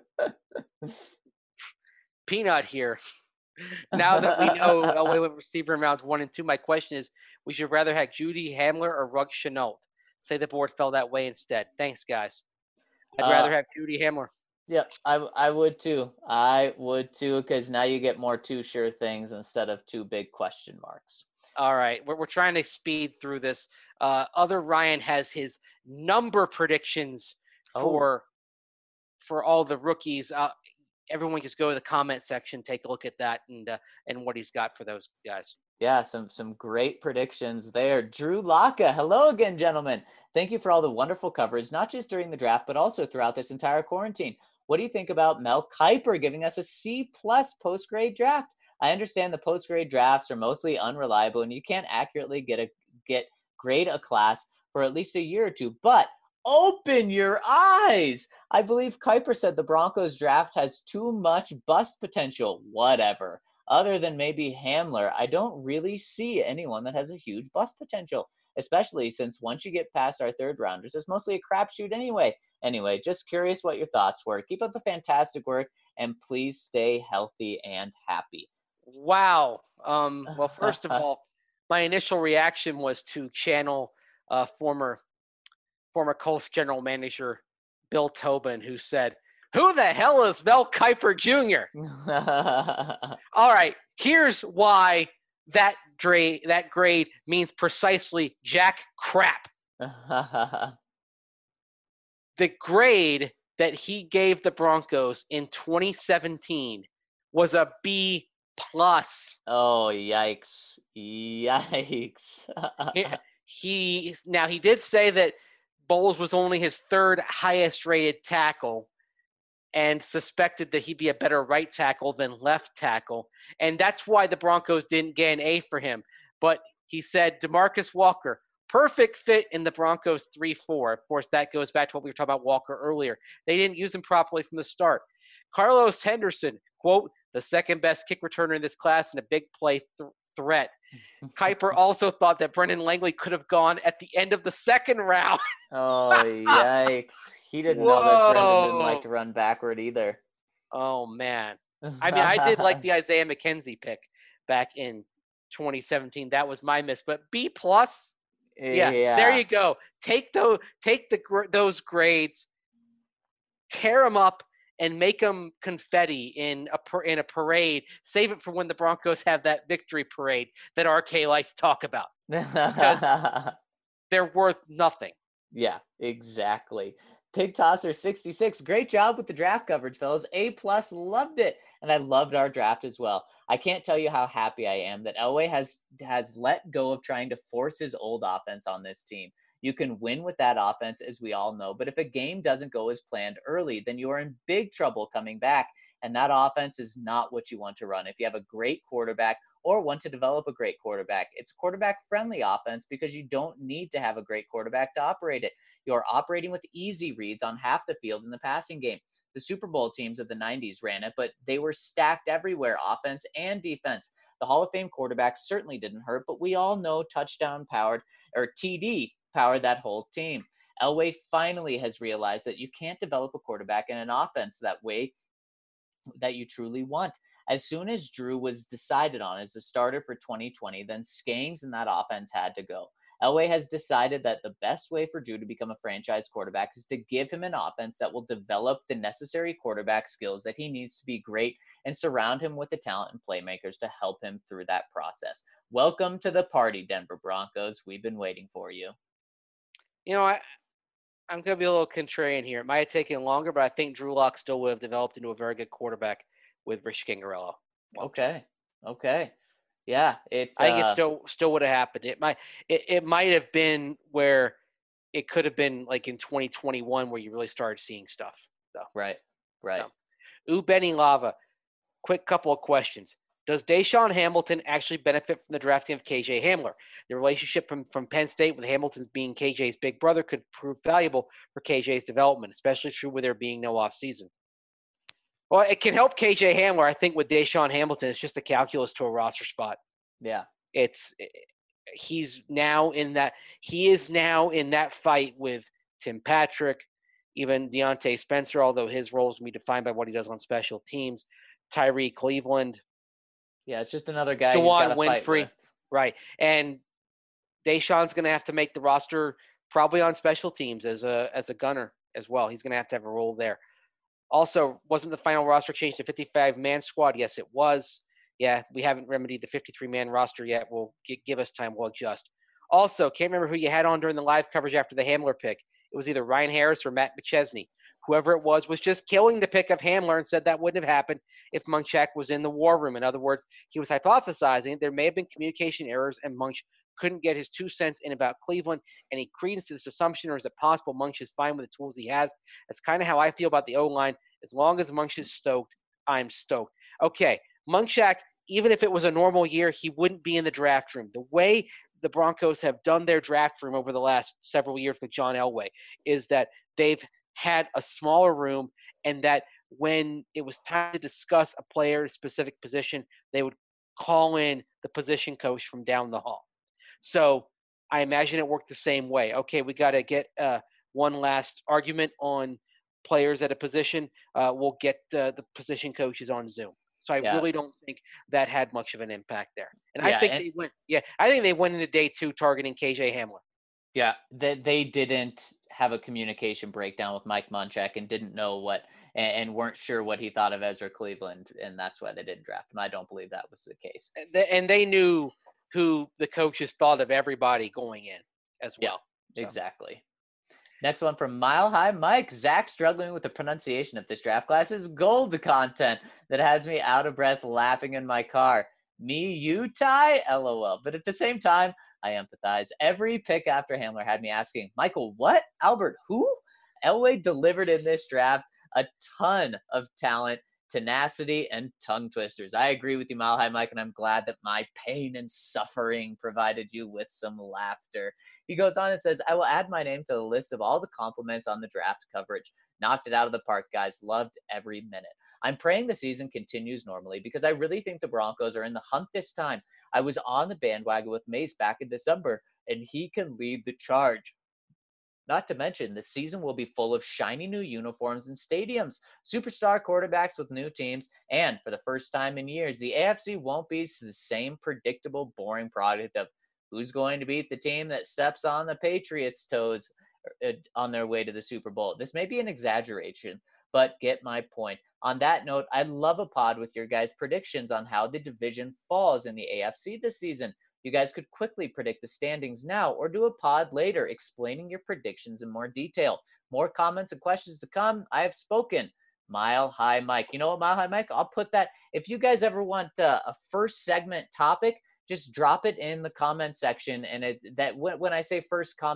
Peanut here. Now that we know away with receiver in rounds 1 and 2, my question is, we should rather have Judy Hamler or Ruggs Chenault? Say the board fell that way instead. Thanks, guys. I'd rather have Judy Hamler. Yep, I would too. I would too, because now you get more 2 sure things instead of 2 big question marks. All right, we're trying to speed through this. Other Ryan has his number predictions for all the rookies. Everyone just go to the comment section, take a look at that, and what he's got for those guys. Yeah, some great predictions there. Drew Laka, hello again, gentlemen. Thank you for all the wonderful coverage, not just during the draft, but also throughout this entire quarantine. What do you think about Mel Kiper giving us a C+ post-grade draft? I understand the post-grade drafts are mostly unreliable, and you can't accurately grade a class for at least a year or 2, but open your eyes. I believe Kiper said the Broncos draft has too much bust potential. Whatever. Other than maybe Hamler, I don't really see anyone that has a huge bust potential, especially since once you get past our 3rd rounders, it's mostly a crapshoot anyway. Anyway, just curious what your thoughts were. Keep up the fantastic work, and please stay healthy and happy. Wow. Well, first of all, my initial reaction was to channel former Colts general manager Bill Tobin, who said, "Who the hell is Mel Kiper Jr.?" All right, here's why that grade means precisely jack crap. The grade that he gave the Broncos in 2017 was a B+. Oh, yikes. He did say that Bowles was only his 3rd highest rated tackle and suspected that he'd be a better right tackle than left tackle. And that's why the Broncos didn't get an A for him. But he said DeMarcus Walker, perfect fit in the Broncos 3-4. Of course, that goes back to what we were talking about Walker earlier. They didn't use him properly from the start. Carlos Henderson, quote, the 2nd best kick returner in this class and a big play threat. Kiper also thought that Brendan Langley could have gone at the end of the 2nd round. Oh, yikes. He didn't know that Brendan didn't like to run backward either. Oh, man. I mean, I did like the Isaiah McKenzie pick back in 2017. That was my miss. But B+, yeah, there you go. Take those grades, tear them up, and make them confetti in a parade. Save it for when the Broncos have that victory parade that RK likes to talk about. Because they're worth nothing. Yeah, exactly. Pig Tosser 66, great job with the draft coverage, fellas. A+, loved it. And I loved our draft as well. I can't tell you how happy I am that Elway has let go of trying to force his old offense on this team. You can win with that offense, as we all know. But if a game doesn't go as planned early, then you are in big trouble coming back. And that offense is not what you want to run. If you have a great quarterback or want to develop a great quarterback, it's quarterback friendly offense because you don't need to have a great quarterback to operate it. You're operating with easy reads on half the field in the passing game. The Super Bowl teams of the 90s ran it, but they were stacked everywhere, offense and defense. The Hall of Fame quarterback certainly didn't hurt, but we all know touchdown powered or TD powered that whole team. Elway finally has realized that you can't develop a quarterback in an offense that way that you truly want. As soon as Drew was decided on as the starter for 2020, then Skangs and that offense had to go. Elway has decided that the best way for Drew to become a franchise quarterback is to give him an offense that will develop the necessary quarterback skills that he needs to be great and surround him with the talent and playmakers to help him through that process. Welcome to the party, Denver Broncos. We've been waiting for you. You know, I'm going to be a little contrarian here. It might have taken longer, but I think Drew Lock still would have developed into a very good quarterback with Rich Scangarello. Okay. Yeah, I think it still would have happened. It might have been where it could have been like in 2021 where you really started seeing stuff. So. Right. Benny Lava, quick couple of questions. Does Deshaun Hamilton actually benefit from the drafting of KJ Hamler? The relationship from Penn State with Hamilton being KJ's big brother could prove valuable for KJ's development, especially true with there being no offseason. Well, it can help KJ Hamler. I think with Deshaun Hamilton, it's just a calculus to a roster spot. Yeah. He is now in that fight with Tim Patrick, even Deontay Spencer, although his role is going to be defined by what he does on special teams, Tyree Cleveland. Yeah, it's just another guy Juwan Winfrey. Right. And Deshaun's going to have to make the roster probably on special teams as a gunner as well. He's going to have a role there. Also, wasn't the final roster changed to 55-man squad? Yes, it was. Yeah, we haven't remedied the 53-man roster yet. We'll give us time. We'll adjust. Also, can't remember who you had on during the live coverage after the Hamler pick. It was either Ryan Harris or Matt McChesney. Whoever it was just killing the pick of Hamler and said that wouldn't have happened if Munchak was in the war room. In other words, he was hypothesizing there may have been communication errors and Munch couldn't get his 2 cents in about Cleveland. Any credence to this assumption, or is it possible Munch is fine with the tools he has? That's kind of how I feel about the O-line. As long as Munch is stoked, I'm stoked. Okay, Munchak, even if it was a normal year, he wouldn't be in the draft room. The way the Broncos have done their draft room over the last several years with John Elway is that they've had a smaller room, and that when it was time to discuss a player's specific position, they would call in the position coach from down the hall. So I imagine it worked the same way. Okay, we got to get one last argument on players at a position. We'll get the position coaches on Zoom. So I really don't think that had much of an impact there. And I think they went. Yeah, I think they went into day 2 targeting KJ Hamler. Yeah, they didn't have a communication breakdown with Mike Munchak and didn't know what and weren't sure what he thought of Ezra Cleveland, and that's why they didn't draft him. I don't believe that was the case. And they knew who the coaches thought of everybody going in as well. Yeah, exactly. Next one from Mile High Mike. Zach struggling with the pronunciation of this draft class is gold content that has me out of breath laughing in my car. Me, you, Ty? LOL. But at the same time, I empathize. Every pick after Hamler had me asking, Michael, what? Albert, who? Elway delivered in this draft a ton of talent, tenacity, and tongue twisters. I agree with you, Mile High Mike, and I'm glad that my pain and suffering provided you with some laughter. He goes on and says, I will add my name to the list of all the compliments on the draft coverage. Knocked it out of the park, guys. Loved every minute. I'm praying the season continues normally because I really think the Broncos are in the hunt this time. I was on the bandwagon with Mace back in December, and he can lead the charge. Not to mention, the season will be full of shiny new uniforms and stadiums, superstar quarterbacks with new teams, and for the first time in years, the AFC won't be the same predictable, boring product of who's going to beat the team that steps on the Patriots' toes on their way to the Super Bowl. This may be an exaggeration, but get my point. On that note, I'd love a pod with your guys' predictions on how the division falls in the AFC this season. You guys could quickly predict the standings now or do a pod later explaining your predictions in more detail. More comments and questions to come. I have spoken. Mile High Mike. You know what, Mile High Mike? I'll put that. If you guys ever want a first segment topic, just drop it in the comment section. And when I say first comment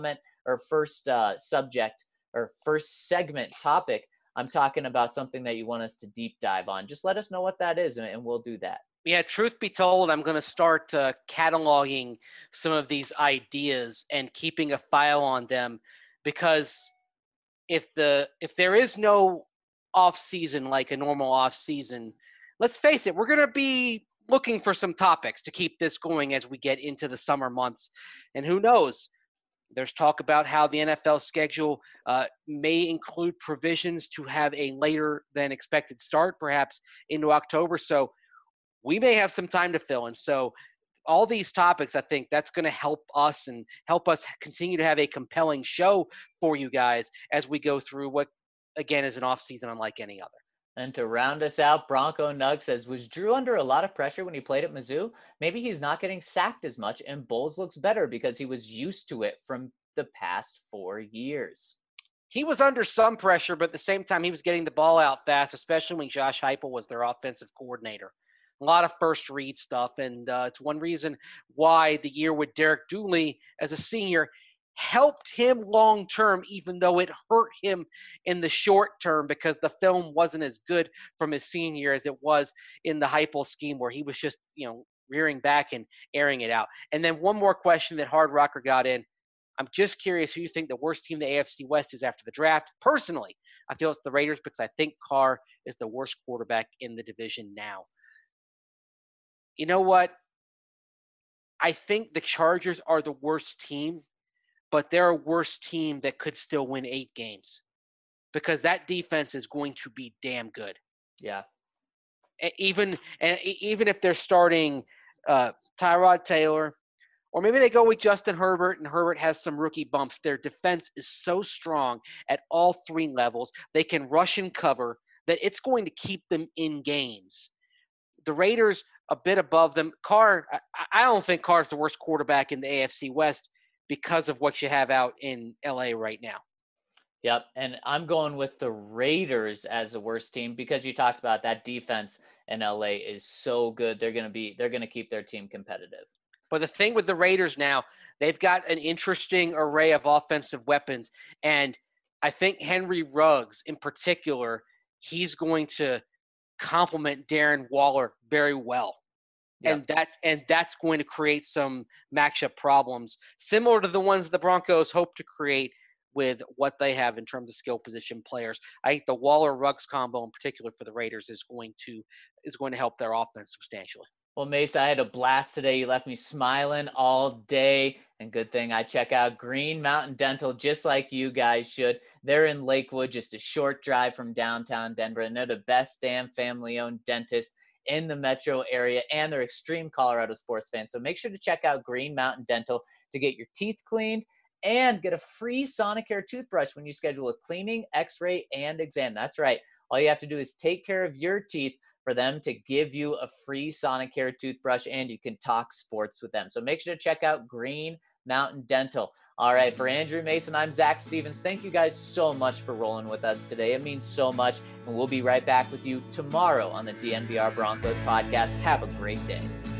first subject or first segment topic, I'm talking about something that you want us to deep dive on. Just let us know what that is, and we'll do that. Yeah, truth be told, I'm going to start cataloging some of these ideas and keeping a file on them, because if there is no off season like a normal off season, let's face it, we're going to be looking for some topics to keep this going as we get into the summer months. And who knows? There's talk about how the NFL schedule may include provisions to have a later than expected start, perhaps into October. So we may have some time to fill in. So all these topics, I think that's going to help us and help us continue to have a compelling show for you guys as we go through what, again, is an off season unlike any other. And to round us out, Bronco Nug says, was Drew under a lot of pressure when he played at Mizzou? Maybe he's not getting sacked as much, and Bowles looks better because he was used to it from the past 4 years. He was under some pressure, but at the same time, he was getting the ball out fast, especially when Josh Heupel was their offensive coordinator. A lot of first read stuff, and it's one reason why the year with Derek Dooley as a senior helped him long-term, even though it hurt him in the short term because the film wasn't as good from his senior year as it was in the Heupel scheme where he was just, rearing back and airing it out. And then one more question that Hard Rocker got in. I'm just curious who you think the worst team in the AFC West is after the draft. Personally, I feel it's the Raiders because I think Carr is the worst quarterback in the division now. You know what? I think the Chargers are the worst team, but they're a worse team that could still win 8 games because that defense is going to be damn good. Yeah. Even if they're starting Tyrod Taylor, or maybe they go with Justin Herbert and Herbert has some rookie bumps, their defense is so strong at all 3 levels. They can rush and cover that it's going to keep them in games. The Raiders a bit above them. Carr, I don't think Carr's the worst quarterback in the AFC West because of what you have out in LA right now. Yep, and I'm going with the Raiders as the worst team because you talked about that defense in LA is so good. They're going to keep their team competitive. But the thing with the Raiders now, they've got an interesting array of offensive weapons, and I think Henry Ruggs in particular, he's going to complement Darren Waller very well. Yep. And that's going to create some matchup problems similar to the ones that the Broncos hope to create with what they have in terms of skill position players. I think the Waller-Ruggs combo in particular for the Raiders is going to help their offense substantially. Well, Mace, I had a blast today. You left me smiling all day. And good thing I check out Green Mountain Dental just like you guys should. They're in Lakewood, just a short drive from downtown Denver. And they're the best damn family-owned dentist in the metro area. And they're extreme Colorado sports fans. So make sure to check out Green Mountain Dental to get your teeth cleaned and get a free Sonicare toothbrush when you schedule a cleaning, x-ray, and exam. That's right. All you have to do is take care of your teeth for them to give you a free Sonicare toothbrush, and you can talk sports with them. So make sure to check out Green Mountain Dental. All right, for Andrew Mason, I'm Zach Stevens. Thank you guys so much for rolling with us today. It means so much, and we'll be right back with you tomorrow on the DNVR Broncos podcast. Have a great day.